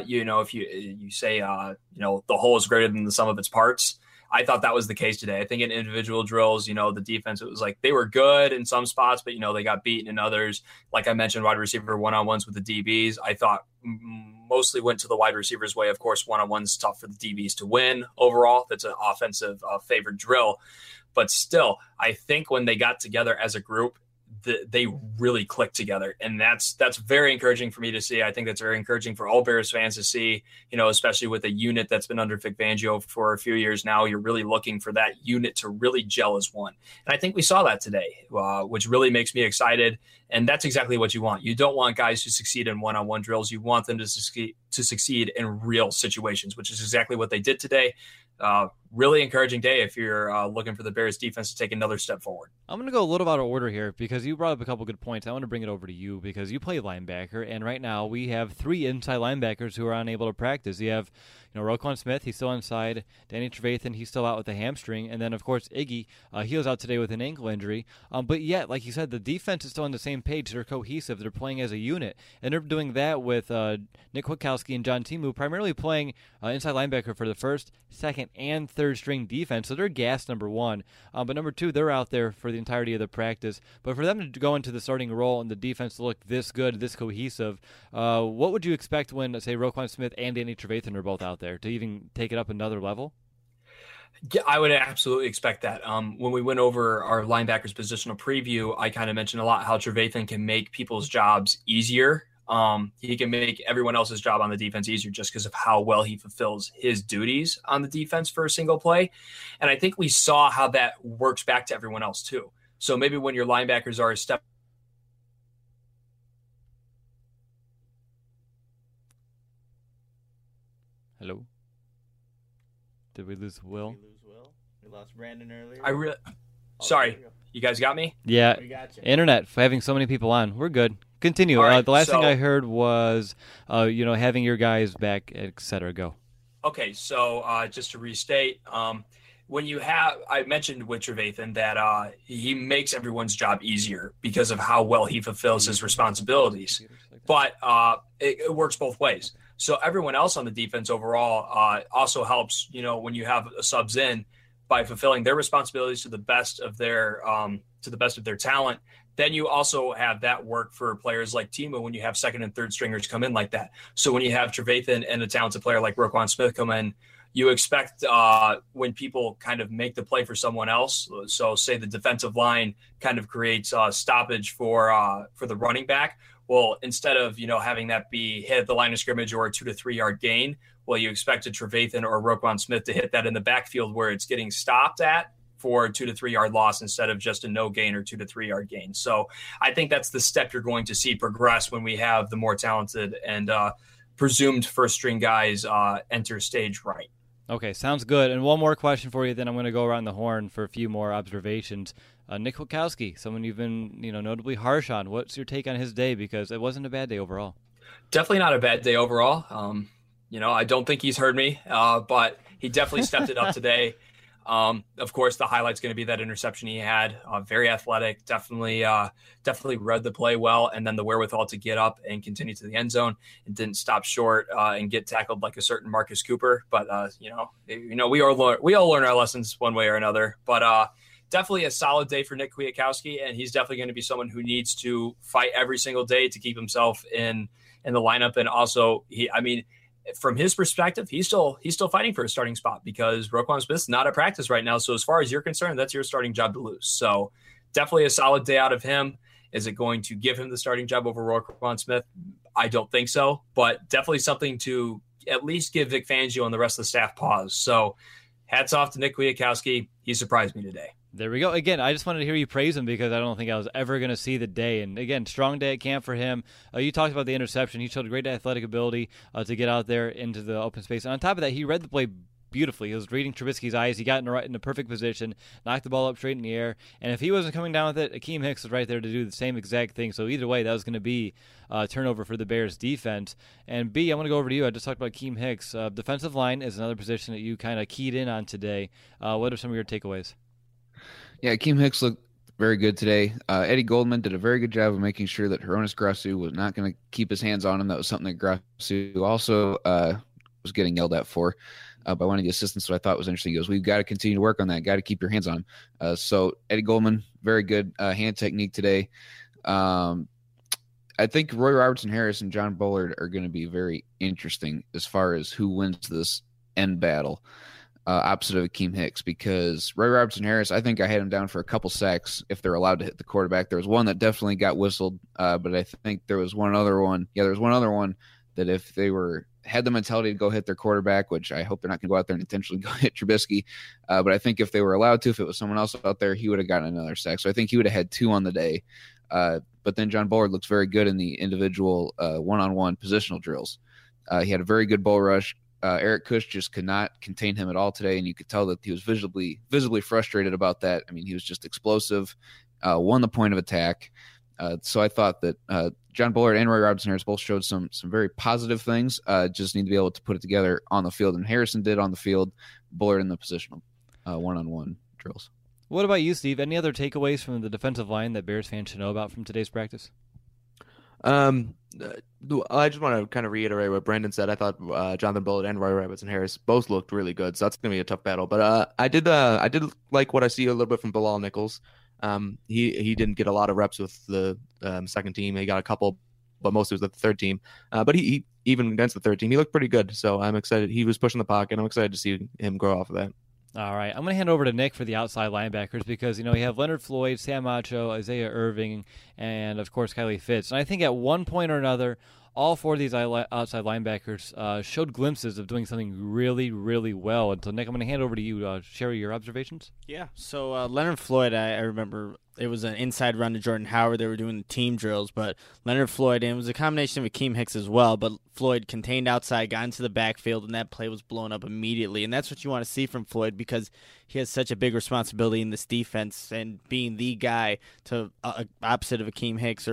if you say, the whole is greater than the sum of its parts, I thought that was the case today. I think in individual drills, the defense, it was like they were good in some spots, but, they got beaten in others. Like I mentioned, wide receiver one-on-ones with the DBs, I thought mostly went to the wide receivers' way. Of course, one-on-ones tough for the DBs to win overall. That's an offensive favored drill. But still, I think when they got together as a group, they really clicked together. And that's very encouraging for me to see. I think that's very encouraging for all Bears fans to see, especially with a unit that's been under Vic Fangio for a few years now. You're really looking for that unit to really gel as one. And I think we saw that today, which really makes me excited. And that's exactly what you want. You don't want guys to succeed in one-on-one drills. You want them to succeed in real situations, which is exactly what they did today. Really encouraging day if you're looking for the Bears defense to take another step forward. I'm going to go a little out of order here because you brought up a couple good points. I want to bring it over to you because you play linebacker, and right now we have 3 inside linebackers who are unable to practice. You have, Roquan Smith, he's still inside. Danny Trevathan, he's still out with a hamstring. And then, of course, Iggy, he was out today with an ankle injury. But yet, like you said, the defense is still on the same page. They're cohesive. They're playing as a unit. And they're doing that with Nick Kwiatkowski and John Timu primarily playing inside linebacker for the first, second, and third string defense. So they're gassed, number 1. But number 2, they're out there for the entirety of the practice. But for them to go into the starting role and the defense to look this good, this cohesive, what would you expect when, say, Roquan Smith and Danny Trevathan are both out there to even take it up another level? Yeah, I would absolutely expect that. When we went over our linebackers positional preview, I kind of mentioned a lot how Trevathan can make people's jobs easier. He can make everyone else's job on the defense easier just because of how well he fulfills his duties on the defense for a single play. And I think we saw how that works back to everyone else too. So maybe when your linebackers are a step. Hello? Did we lose Will? We lost Brandon earlier. Sorry, you guys got me? Yeah. We got you. Internet, for having so many people on. We're good. Continue. Right, the last thing I heard was, having your guys back, etc. Go. Okay, so just to restate, when you have, I mentioned with Trevathan that he makes everyone's job easier because of how well he fulfills his responsibilities. But it works both ways. So everyone else on the defense overall also helps, when you have subs in by fulfilling their responsibilities to the best of their talent. Then you also have that work for players like Timo when you have second and third stringers come in like that. So when you have Trevathan and a talented player like Roquan Smith come in, you expect when people kind of make the play for someone else. So say the defensive line kind of creates stoppage for the running back. Well, instead of, having that be hit at the line of scrimmage or a 2 to 3 yard gain, well, you expected Trevathan or Roquan Smith to hit that in the backfield where it's getting stopped at for a 2 to 3 yard loss instead of just a no gain or 2 to 3 yard gain. So I think that's the step you're going to see progress when we have the more talented and presumed first string guys enter stage right. Okay, sounds good. And one more question for you, then I'm going to go around the horn for a few more observations. Nick Kwiatkowski, someone you've been notably harsh on. What's your take on his day? Because it wasn't a bad day overall. Definitely not a bad day overall. I don't think he's heard me, but he definitely stepped it up today. Of course, the highlight's going to be that interception he had. Very athletic, definitely read the play well, and then the wherewithal to get up and continue to the end zone and didn't stop short and get tackled like a certain Marcus Cooper. But we all learn our lessons one way or another. But definitely a solid day for Nick Kwiatkowski, and he's definitely going to be someone who needs to fight every single day to keep himself in the lineup. And also, from his perspective, he's still fighting for a starting spot because Roquan Smith's not at practice right now. So as far as you're concerned, that's your starting job to lose. So definitely a solid day out of him. Is it going to give him the starting job over Roquan Smith? I don't think so, but definitely something to at least give Vic Fangio and the rest of the staff pause. So hats off to Nick Kwiatkowski. He surprised me today. There we go. Again, I just wanted to hear you praise him because I don't think I was ever going to see the day. And again, strong day at camp for him. You talked about the interception. He showed great athletic ability to get out there into the open space. And on top of that, he read the play beautifully. He was reading Trubisky's eyes. He got in the perfect position, knocked the ball up straight in the air. And if he wasn't coming down with it, Akeem Hicks was right there to do the same exact thing. So either way, that was going to be a turnover for the Bears defense. And B, I want to go over to you. I just talked about Akeem Hicks. Defensive line is another position that you kind of keyed in on today. What are some of your takeaways? Yeah, Akeem Hicks looked very good today. Eddie Goldman did a very good job of making sure that Hronis Grasu was not going to keep his hands on him. That was something that Grasu also was getting yelled at for by one of the assistants, so I thought was interesting. He goes, we've got to continue to work on that. Got to keep your hands on him. So Eddie Goldman, very good hand technique today. I think Roy Robertson Harris and John Bullard are going to be very interesting as far as who wins this end battle. Opposite of Akeem Hicks, because Roy Robertson Harris, I think I had him down for a couple sacks if they're allowed to hit the quarterback. There was one that definitely got whistled, but I think there was one other one. Yeah, there was one other one that if they had the mentality to go hit their quarterback, which I hope they're not going to go out there and intentionally go hit Trubisky, but I think if they were allowed to, if it was someone else out there, he would have gotten another sack. So I think he would have had 2 on the day. But then John Bullard looks very good in the individual one-on-one positional drills. He had a very good bull rush. Eric Kush just could not contain him at all today, and you could tell that he was visibly frustrated about that. I mean, he was just explosive, won the point of attack. So I thought that John Bullard and Roy Robertson Harris both showed some very positive things. Just need to be able to put it together on the field, and Harrison did on the field. Bullard in the positional one-on-one drills. What about you, Steve? Any other takeaways from the defensive line that Bears fans should know about from today's practice? I just want to kind of reiterate what Brandon said. I thought Jonathan Bullard and Roy Robertson Harris both looked really good, so that's going to be a tough battle. But I did like what I see a little bit from Bilal Nichols. He didn't get a lot of reps with the second team. He got a couple, but mostly was with the third team. But he even against the third team, he looked pretty good. So I'm excited. He was pushing the pocket. I'm excited to see him grow off of that. All right, I'm going to hand over to Nick for the outside linebackers because, you have Leonard Floyd, Sam Acho, Isaiah Irving, and, of course, Kylie Fitz. And I think at one point or another, all 4 of these outside linebackers showed glimpses of doing something really, really well. And so, Nick, I'm going to hand over to you to share your observations. Yeah, so Leonard Floyd, I remember it was an inside run to Jordan Howard. They were doing the team drills, but Leonard Floyd, and it was a combination of Akeem Hicks as well, but Floyd contained outside, got into the backfield, and that play was blown up immediately. And that's what you want to see from Floyd because he has such a big responsibility in this defense and being the guy to opposite of Akeem Hicks or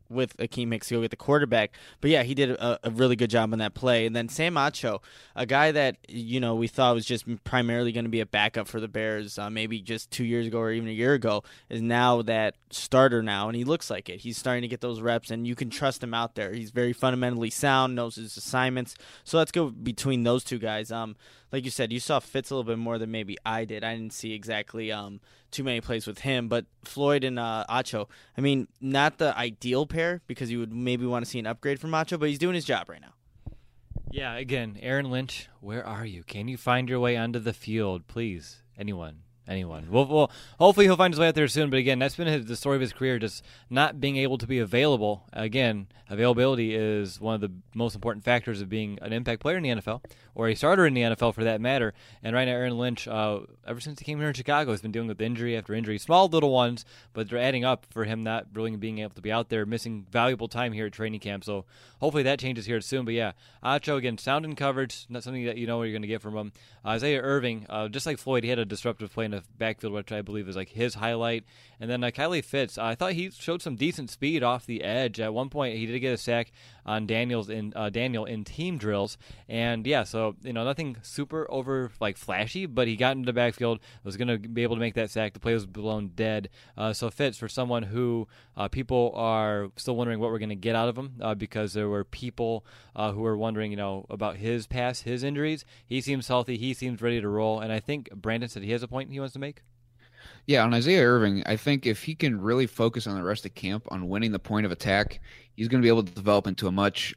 with Akeem Hicks to go get the quarterback. But yeah, he did a really good job on that play. And then Sam Acho, a guy that we thought was just primarily going to be a backup for the Bears, maybe just 2 years ago or even a year ago, is now that starter now, and he looks like it. He's starting to get those reps, and you can trust him out there. He's very fundamentally sound, knows his assignments. So let's go between those two guys. Like you said, you saw Fitz a little bit more than maybe I did. I didn't see exactly too many plays with him, but Floyd and Acho, I mean, not the ideal pair because you would maybe want to see an upgrade from Acho, but he's doing his job right now. Yeah, again, Aaron Lynch, where are you? Can you find your way onto the field, please? Anyone. Well, hopefully he'll find his way out there soon. But again, that's been the story of his career, just not being able to be available. Again, availability is one of the most important factors of being an impact player in the NFL, or a starter in the NFL for that matter. And right now, Aaron Lynch, ever since he came here in Chicago, has been dealing with injury after injury. Small little ones, but they're adding up for him not really being able to be out there, missing valuable time here at training camp. So hopefully that changes here soon. But yeah, Acho, again, sound in coverage, not something that you know what you're going to get from him. Isaiah Irving, just like Floyd, he had a disruptive play in the backfield, which I believe is like his highlight. And then Kylie Fitz, I thought he showed some decent speed off the edge. At one point, he did get a sack on Daniel in team drills. And yeah, so nothing super over like flashy, but he got into the backfield, was going to be able to make that sack. The play was blown dead. So Fitz, for someone who people are still wondering what we're going to get out of him, because there were people who were wondering, about his past, his injuries. He seems healthy. He seems ready to roll. And I think Brandon said he has a point he wants to make. Yeah, on Isaiah Irving, I think if he can really focus on the rest of camp on winning the point of attack, he's going to be able to develop into a much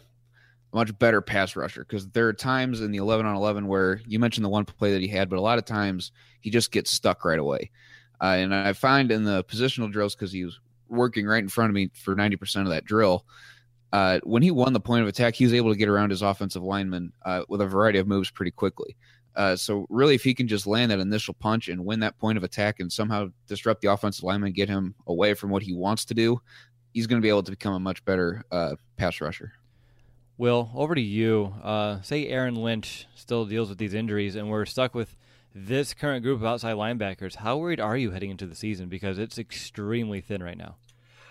better pass rusher, because there are times in the 11-on-11 where you mentioned the one play that he had, but a lot of times he just gets stuck right away. And I find in the positional drills, because he was working right in front of me for 90% of that drill, when he won the point of attack, he was able to get around his offensive lineman with a variety of moves pretty quickly. So really, if he can just land that initial punch and win that point of attack and somehow disrupt the offensive lineman, get him away from what he wants to do, he's going to be able to become a much better pass rusher. Will, over to you. Say Aaron Lynch still deals with these injuries, and we're stuck with this current group of outside linebackers. How worried are you heading into the season? Because it's extremely thin right now.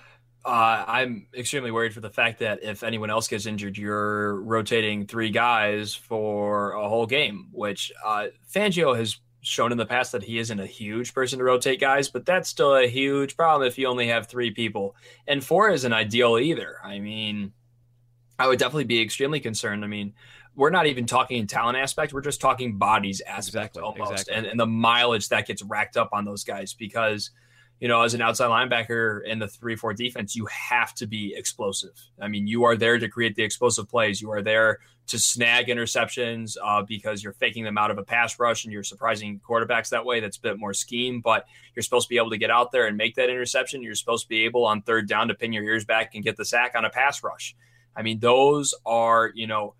I'm extremely worried for the fact that if anyone else gets injured, you're rotating three guys for a whole game, which Fangio has shown in the past that he isn't a huge person to rotate guys, but that's still a huge problem if you only have three people. And four isn't ideal either. I mean, I would definitely be extremely concerned. I mean, we're not even talking in talent aspect. We're just talking bodies aspect almost. Exactly. And the mileage that gets racked up on those guys because – as an outside linebacker in the 3-4 defense, you have to be explosive. I mean, you are there to create the explosive plays. You are there to snag interceptions because you're faking them out of a pass rush and you're surprising quarterbacks that way. That's a bit more scheme, but you're supposed to be able to get out there and make that interception. You're supposed to be able on third down to pin your ears back and get the sack on a pass rush. I mean, those are,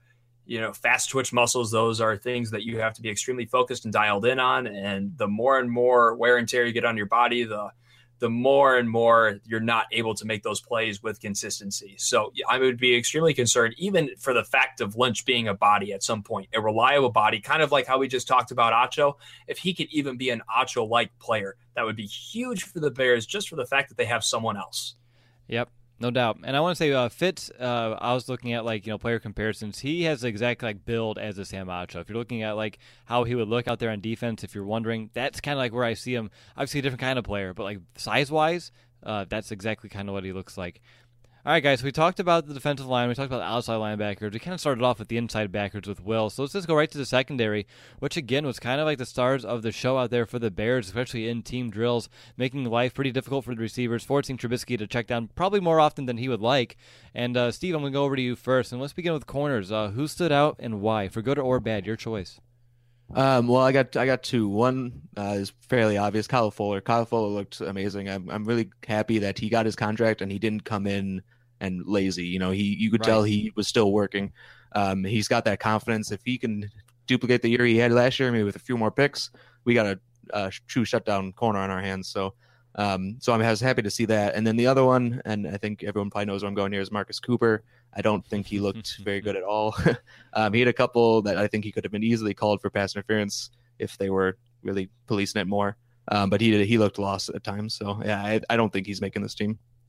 fast twitch muscles. Those are things that you have to be extremely focused and dialed in on. And the more and more wear and tear you get on your body, the more and more you're not able to make those plays with consistency. So I would be extremely concerned, even for the fact of Lynch being a body at some point, a reliable body, kind of like how we just talked about Acho. If he could even be an Acho-like player, that would be huge for the Bears, just for the fact that they have someone else. Yep. No doubt. And I want to say Fitz, I was looking at player comparisons. He has the exact build as a Sam Acho. If you're looking at how he would look out there on defense, if you're wondering, that's kind of where I see him. Obviously a different kind of player, but size-wise, that's exactly kind of what he looks like. All right, guys, we talked about the defensive line. We talked about the outside linebackers. We kind of started off with the inside backers with Will. So let's just go right to the secondary, which, again, was kind of like the stars of the show out there for the Bears, especially in team drills, making life pretty difficult for the receivers, forcing Trubisky to check down probably more often than he would like. And, Steve, I'm going to go over to you first. And let's begin with corners. Who stood out and why? For good or bad, your choice. Well, I got two. One is fairly obvious. Kyle Fuller. Kyle Fuller looked amazing. I'm really happy that he got his contract and he didn't come in and lazy. You could tell he was still working. He's got that confidence. If he can duplicate the year he had last year, maybe with a few more picks, we got a true shutdown corner on our hands. So I'm happy to see that. And then the other one, and I think everyone probably knows where I'm going here, is Marcus Cooper. I don't think he looked very good at all. He had a couple that I think he could have been easily called for pass interference if they were really policing it more. But he looked lost at times. So, yeah, I don't think he's making this team.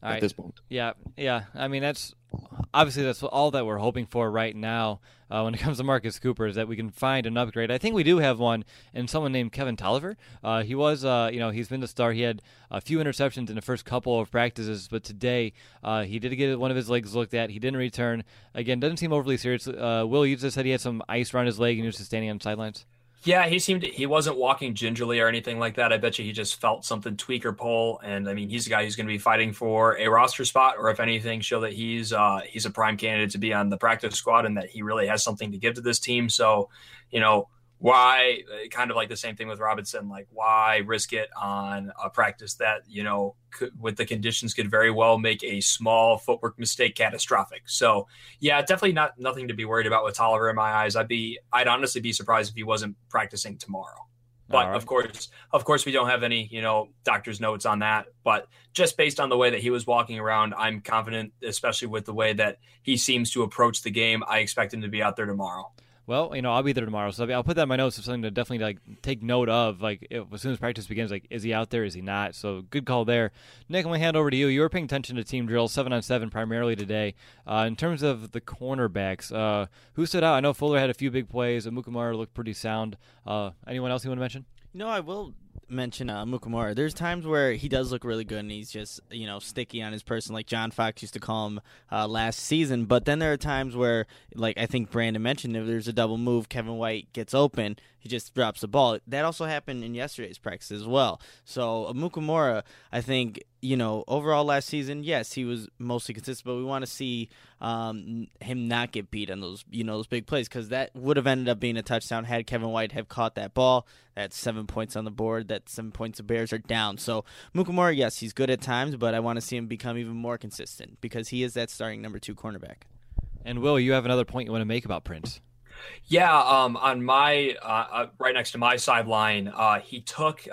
at this point. Yeah. I mean, that's all that we're hoping for right now when it comes to Marcus Cooper, is that we can find an upgrade. I think we do have one in someone named Kevin Tolliver. He was, he's been the star. He had a few interceptions in the first couple of practices, but today he did get one of his legs looked at. He didn't return. Again, doesn't seem overly serious. Will, you just said he had some ice around his leg and he was just standing on the sidelines? Yeah, he wasn't walking gingerly or anything like that. I bet you he just felt something tweak or pull. And I mean, he's a guy who's going to be fighting for a roster spot, or if anything, show that he's a prime candidate to be on the practice squad and that he really has something to give to this team. So, why, kind of like the same thing with Robinson, like why risk it on a practice that, with the conditions could very well make a small footwork mistake catastrophic. So yeah, definitely nothing to be worried about with Tolliver in my eyes. I'd honestly be surprised if he wasn't practicing tomorrow. But right. Of course we don't have any, doctor's notes on that, but just based on the way that he was walking around, I'm confident, especially with the way that he seems to approach the game. I expect him to be out there tomorrow. Well, I'll be there tomorrow, so I'll put that in my notes of something to definitely take note of. As soon as practice begins, is he out there? Is he not? So good call there. Nick, I'm going to hand over to you. You were paying attention to team drills 7-on-7 primarily today. In terms of the cornerbacks, who stood out? I know Fuller had a few big plays. Amukamara looked pretty sound. Anyone else you want to mention? I will mention Amukamara. There's times where he does look really good and he's just, sticky on his person, like John Fox used to call him last season. But then there are times where, like I think Brandon mentioned, if there's a double move, Kevin White gets open, he just drops the ball. That also happened in yesterday's practice as well. So Amukamara, I think, overall last season, yes, he was mostly consistent, but we want to see him not get beat on those, those big plays, because that would have ended up being a touchdown had Kevin White have caught that ball. That's 7 points on the board. That's 7 points the Bears are down. So Amukamara, yes, he's good at times, but I want to see him become even more consistent because he is that starting number 2 cornerback. And Will, you have another point you want to make about Prince? Yeah, on my right next to my sideline, he took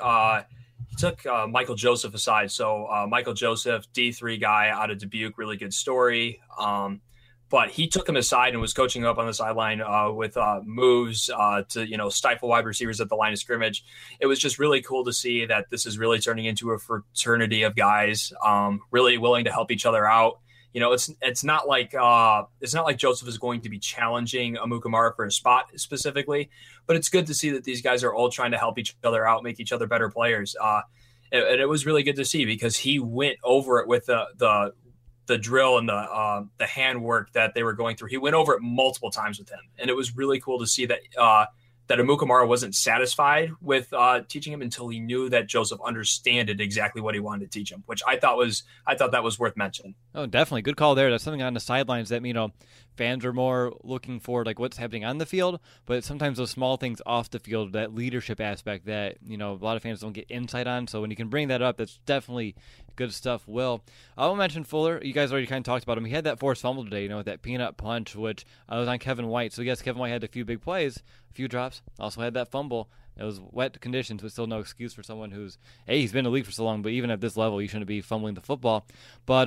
Michael Joseph aside. So Michael Joseph, D3 guy out of Dubuque, really good story. But he took him aside and was coaching up on the sideline with moves to stifle wide receivers at the line of scrimmage. It was just really cool to see that this is really turning into a fraternity of guys really willing to help each other out. It's not like Joseph is going to be challenging Amukamara for a spot specifically, but it's good to see that these guys are all trying to help each other out, make each other better players. And it was really good to see because he went over it with the drill and the handwork that they were going through. He went over it multiple times with him, and it was really cool to see that Amukamara wasn't satisfied with teaching him until he knew that Joseph understood exactly what he wanted to teach him, which I thought that was worth mentioning. Oh, definitely. Good call there. That's something on the sidelines that, fans are more looking for what's happening on the field, but sometimes those small things off the field, that leadership aspect that, a lot of fans don't get insight on. So when you can bring that up, that's definitely good stuff. Will, I will mention Fuller. You guys already kind of talked about him. He had that forced fumble today, with that peanut punch, which was on Kevin White. So yes, Kevin White had a few big plays, a few drops, also had that fumble. It was wet conditions, but still no excuse for someone he's been in the league for so long, but even at this level, you shouldn't be fumbling the football. But,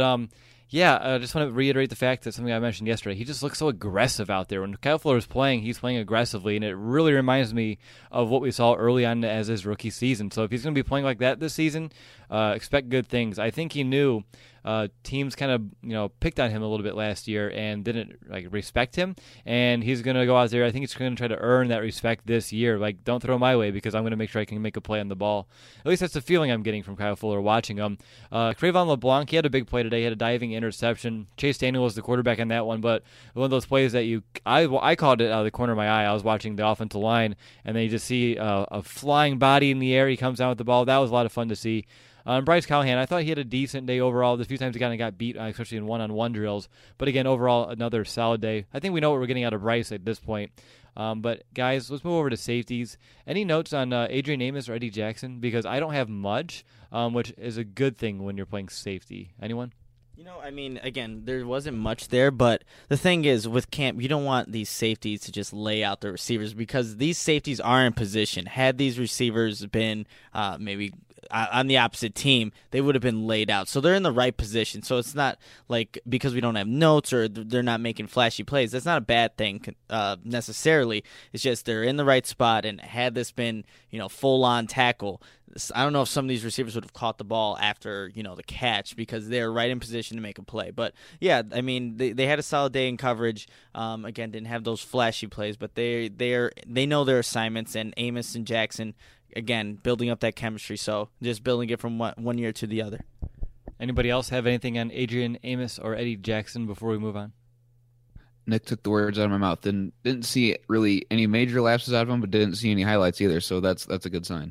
I just want to reiterate the fact that something I mentioned yesterday, he just looks so aggressive out there. When Kyle Fuller is playing, he's playing aggressively, and it really reminds me of what we saw early on as his rookie season. So if he's going to be playing like that this season, expect good things. I think he knew teams kind of, picked on him a little bit last year and didn't respect him. And he's going to go out there. I think he's going to try to earn that respect this year. Don't throw my way because I'm going to make sure I can make a play on the ball. At least that's the feeling I'm getting from Kyle Fuller watching him. Trayvon LeBlanc, he had a big play today. He had a diving interception. Chase Daniel was the quarterback on that one, but one of those plays that I called it out of the corner of my eye. I was watching the offensive line, and then you just see a flying body in the air. He comes down with the ball. That was a lot of fun to see. Bryce Callahan, I thought he had a decent day overall. The few times he kind of got beat, especially in one-on-one drills. But again, overall, another solid day. I think we know what we're getting out of Bryce at this point. But guys, let's move over to safeties. Any notes on Adrian Amos or Eddie Jackson? Because I don't have much, which is a good thing when you're playing safety. Anyone? Again, there wasn't much there, but the thing is, with camp, you don't want these safeties to just lay out the receivers because these safeties are in position. Had these receivers been maybe on the opposite team, they would have been laid out. So they're in the right position. So it's not like because we don't have notes or they're not making flashy plays. That's not a bad thing necessarily. It's just they're in the right spot, and had this been, full-on tackle, I don't know if some of these receivers would have caught the ball after, the catch, because they're right in position to make a play. But, yeah, I mean, they had a solid day in coverage. Again, didn't have those flashy plays, but they know their assignments, and Amos and Jackson, again, building up that chemistry. So just building it from one year to the other. Anybody else have anything on Adrian Amos or Eddie Jackson before we move on? Nick took the words out of my mouth. Didn't see really any major lapses out of him, but didn't see any highlights either. So that's a good sign.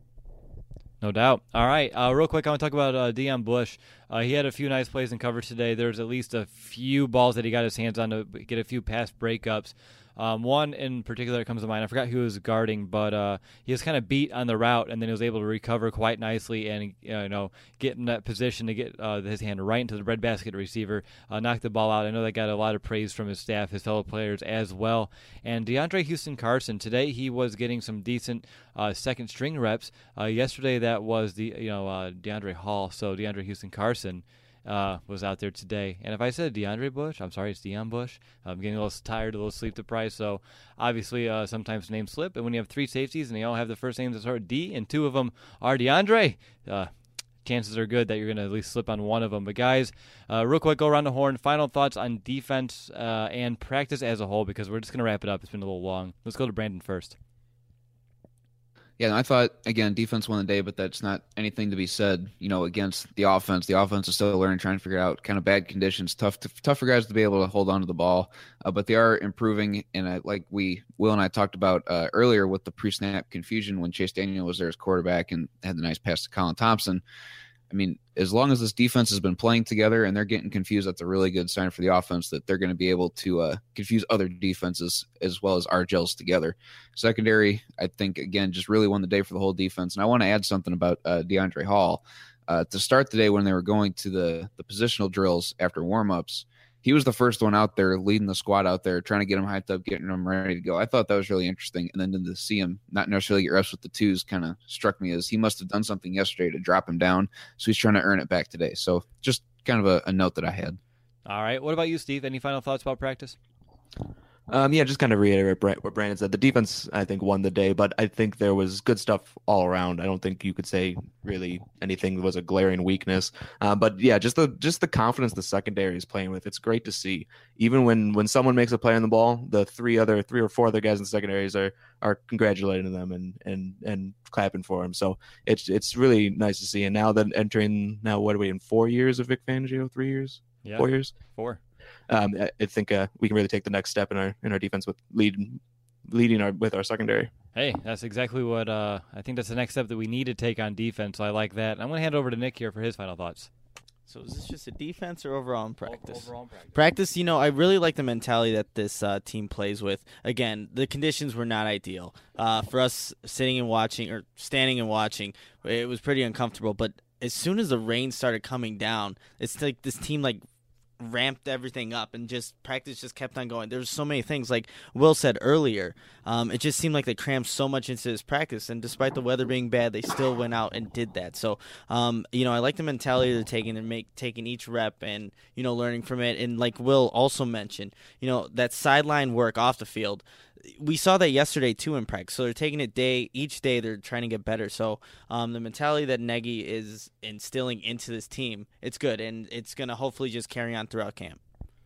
No doubt. All right, real quick, I want to talk about Deion Bush. He had a few nice plays in coverage today. There's at least a few balls that he got his hands on to get a few pass breakups. One in particular that comes to mind, I forgot who he was guarding, but he was kind of beat on the route, and then he was able to recover quite nicely and get in that position to get his hand right into the breadbasket receiver, knock the ball out. I know that got a lot of praise from his staff, his fellow players as well. And DeAndre Houston Carson, today he was getting some decent second string reps. Yesterday that was DeAndre Hall, so DeAndre Houston Carson was out there today. And if I said DeAndre Bush, I'm sorry, it's Deion Bush. I'm getting a little tired, a little sleep deprived, so obviously sometimes names slip. And when you have three safeties and they all have the first names that start with D and two of them are DeAndre, chances are good that you're going to at least slip on one of them. But guys, real quick, go around the horn. Final thoughts on defense and practice as a whole, because we're just going to wrap it up. It's been a little long. Let's go to Brandon first. Yeah, I thought, again, defense won the day, but that's not anything to be said, against the offense. The offense is still learning, trying to figure out kind of bad conditions, tough for guys to be able to hold on to the ball, but they are improving. And like Will and I talked about earlier with the pre-snap confusion when Chase Daniel was there as quarterback and had the nice pass to Colin Thompson. I mean, as long as this defense has been playing together and they're getting confused, that's a really good sign for the offense that they're going to be able to confuse other defenses as well as our gels together. Secondary, I think, again, just really won the day for the whole defense. And I want to add something about DeAndre Hall. To start the day when they were going to the positional drills after warm-ups, he was the first one out there leading the squad out there, trying to get him hyped up, getting him ready to go. I thought that was really interesting. And then to see him not necessarily get reps with the twos kind of struck me as he must have done something yesterday to drop him down. So he's trying to earn it back today. So just kind of a note that I had. All right. What about you, Steve? Any final thoughts about practice? Yeah, just kind of reiterate what Brandon said. The defense, I think, won the day, but I think there was good stuff all around. I don't think you could say really anything was a glaring weakness. But yeah, just the confidence the secondary is playing with. It's great to see. Even when someone makes a play on the ball, the three or four other guys in the secondaries are congratulating them and clapping for him. So it's really nice to see. And now that what are we in 4 years of Vic Fangio? 3 years? Yeah, 4 years? 4. I think we can really take the next step in our defense with leading with our secondary. Hey, that's exactly what I think. That's the next step that we need to take on defense. So I like that. I'm going to hand over to Nick here for his final thoughts. So is this just a defense or overall in practice? Overall in practice. Practice, I really like the mentality that this team plays with. Again, the conditions were not ideal. For us sitting and watching or standing and watching, it was pretty uncomfortable. But as soon as the rain started coming down, it's like this team ramped everything up and practice just kept on going. There's so many things, like Will said earlier. It just seemed like they crammed so much into this practice, and despite the weather being bad, they still went out and did that. So, I like the mentality they're taking each rep and learning from it. And like Will also mentioned, that sideline work off the field. We saw that yesterday too in practice. So they're taking it each day. They're trying to get better. So the mentality that Nagy is instilling into this team, it's good, and it's going to hopefully just carry on throughout camp.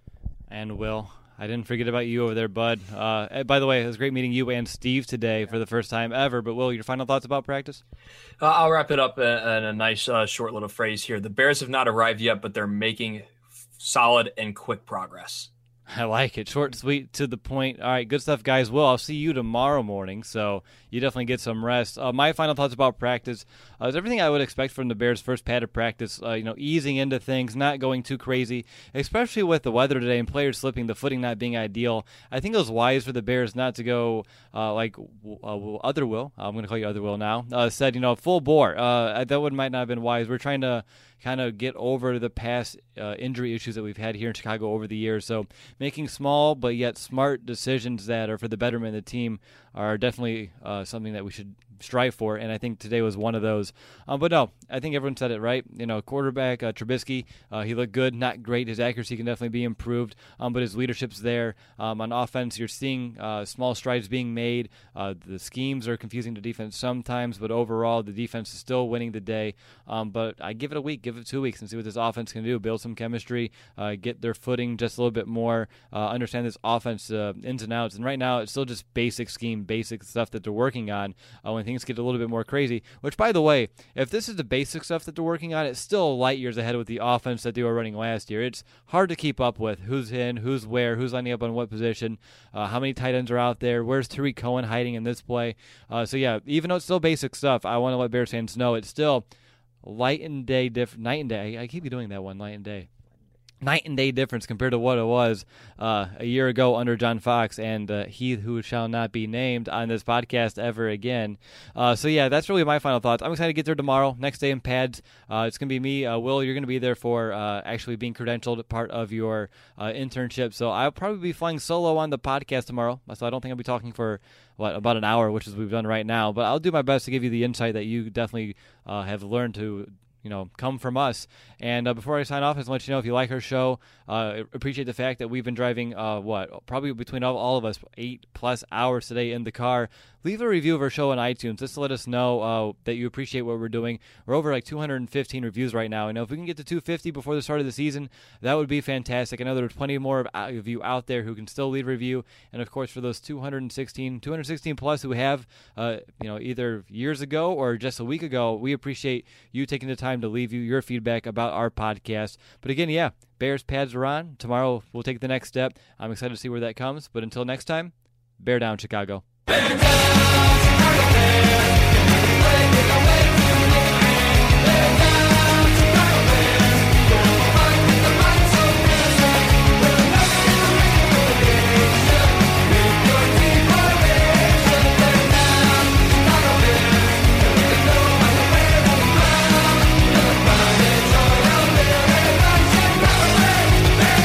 And Will, I didn't forget about you over there, bud. By the way, it was great meeting you and Steve today for the first time ever. But Will, your final thoughts about practice? I'll wrap it up in a nice short little phrase here. The Bears have not arrived yet, but they're making solid and quick progress. I like it. Short, sweet, to the point. All right, good stuff, guys. Will, I'll see you tomorrow morning, so you definitely get some rest. My final thoughts about practice is everything I would expect from the Bears' first padded practice, easing into things, not going too crazy, especially with the weather today and players slipping, the footing not being ideal. I think it was wise for the Bears not to go like Other Will, I'm going to call you Other Will now, said, full bore. That might not have been wise. We're trying to kind of get over the past injury issues that we've had here in Chicago over the years. So making small but yet smart decisions that are for the betterment of the team are definitely something that we should strive for, and I think today was one of those. But no, I think everyone said it right. Quarterback Trubisky, he looked good, not great. His accuracy can definitely be improved, but his leadership's there. On offense, you're seeing small strides being made. The schemes are confusing to defense sometimes, but overall, the defense is still winning the day. But I give it a week, give it 2 weeks, and see what this offense can do. Build some chemistry, get their footing just a little bit more, understand this offense ins and outs. And right now, it's still just basic scheme, basic stuff that they're working on. When things get a little bit more crazy, which, by the way, if this is the basic stuff that they're working on, it's still light years ahead with the offense that they were running last year. It's hard to keep up with who's in, who's where, who's lining up on what position, how many tight ends are out there, where's Tariq Cohen hiding in this play. So yeah, even though it's still basic stuff, I want to let Bears fans know it's still night and day. I keep doing that one, night and day difference compared to what it was a year ago under John Fox and he who shall not be named on this podcast ever again. So yeah, that's really my final thoughts. I'm excited to get there tomorrow. Next day in pads. It's going to be me. Will, you're going to be there for actually being credentialed, part of your internship. So I'll probably be flying solo on the podcast tomorrow. So I don't think I'll be talking for about an hour, which is what we've done right now. But I'll do my best to give you the insight that you definitely have learned to come from us. And before I sign off, I just want you to know, if you like our show, appreciate the fact that we've been driving, probably between all of us, 8+ hours today in the car. Leave a review of our show on iTunes just to let us know that you appreciate what we're doing. We're over 215 reviews right now. If we can get to 250 before the start of the season, that would be fantastic. I know there's plenty more of you out there who can still leave a review. And of course, for those 216 plus who have, either years ago or just a week ago, we appreciate you taking the time to leave your feedback about our podcast. But again, yeah, Bears pads are on. Tomorrow we'll take the next step. I'm excited to see where that comes. But until next time, bear down, Chicago. Bear down, Chicago Bears. Play with the way to win. Bear down, Chicago Bears. Go fight with the might so fierce. We're nothing in the regulation. With your team formation. Bear down, Chicago Bears. And we can go on the way to the ground. You're the pride and joy of living. Chicago Bears. Bear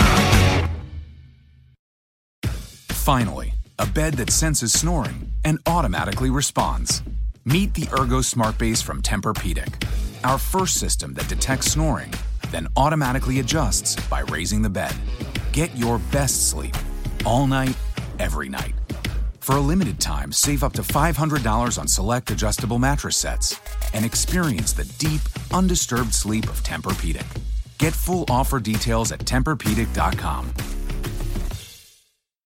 down. Finally, a bed that senses snoring and automatically responds. Meet the Ergo Smart Base from Tempur-Pedic, our first system that detects snoring, then automatically adjusts by raising the bed. Get your best sleep all night, every night. For a limited time, save up to $500 on select adjustable mattress sets and experience the deep, undisturbed sleep of Tempur-Pedic. Get full offer details at TempurPedic.com.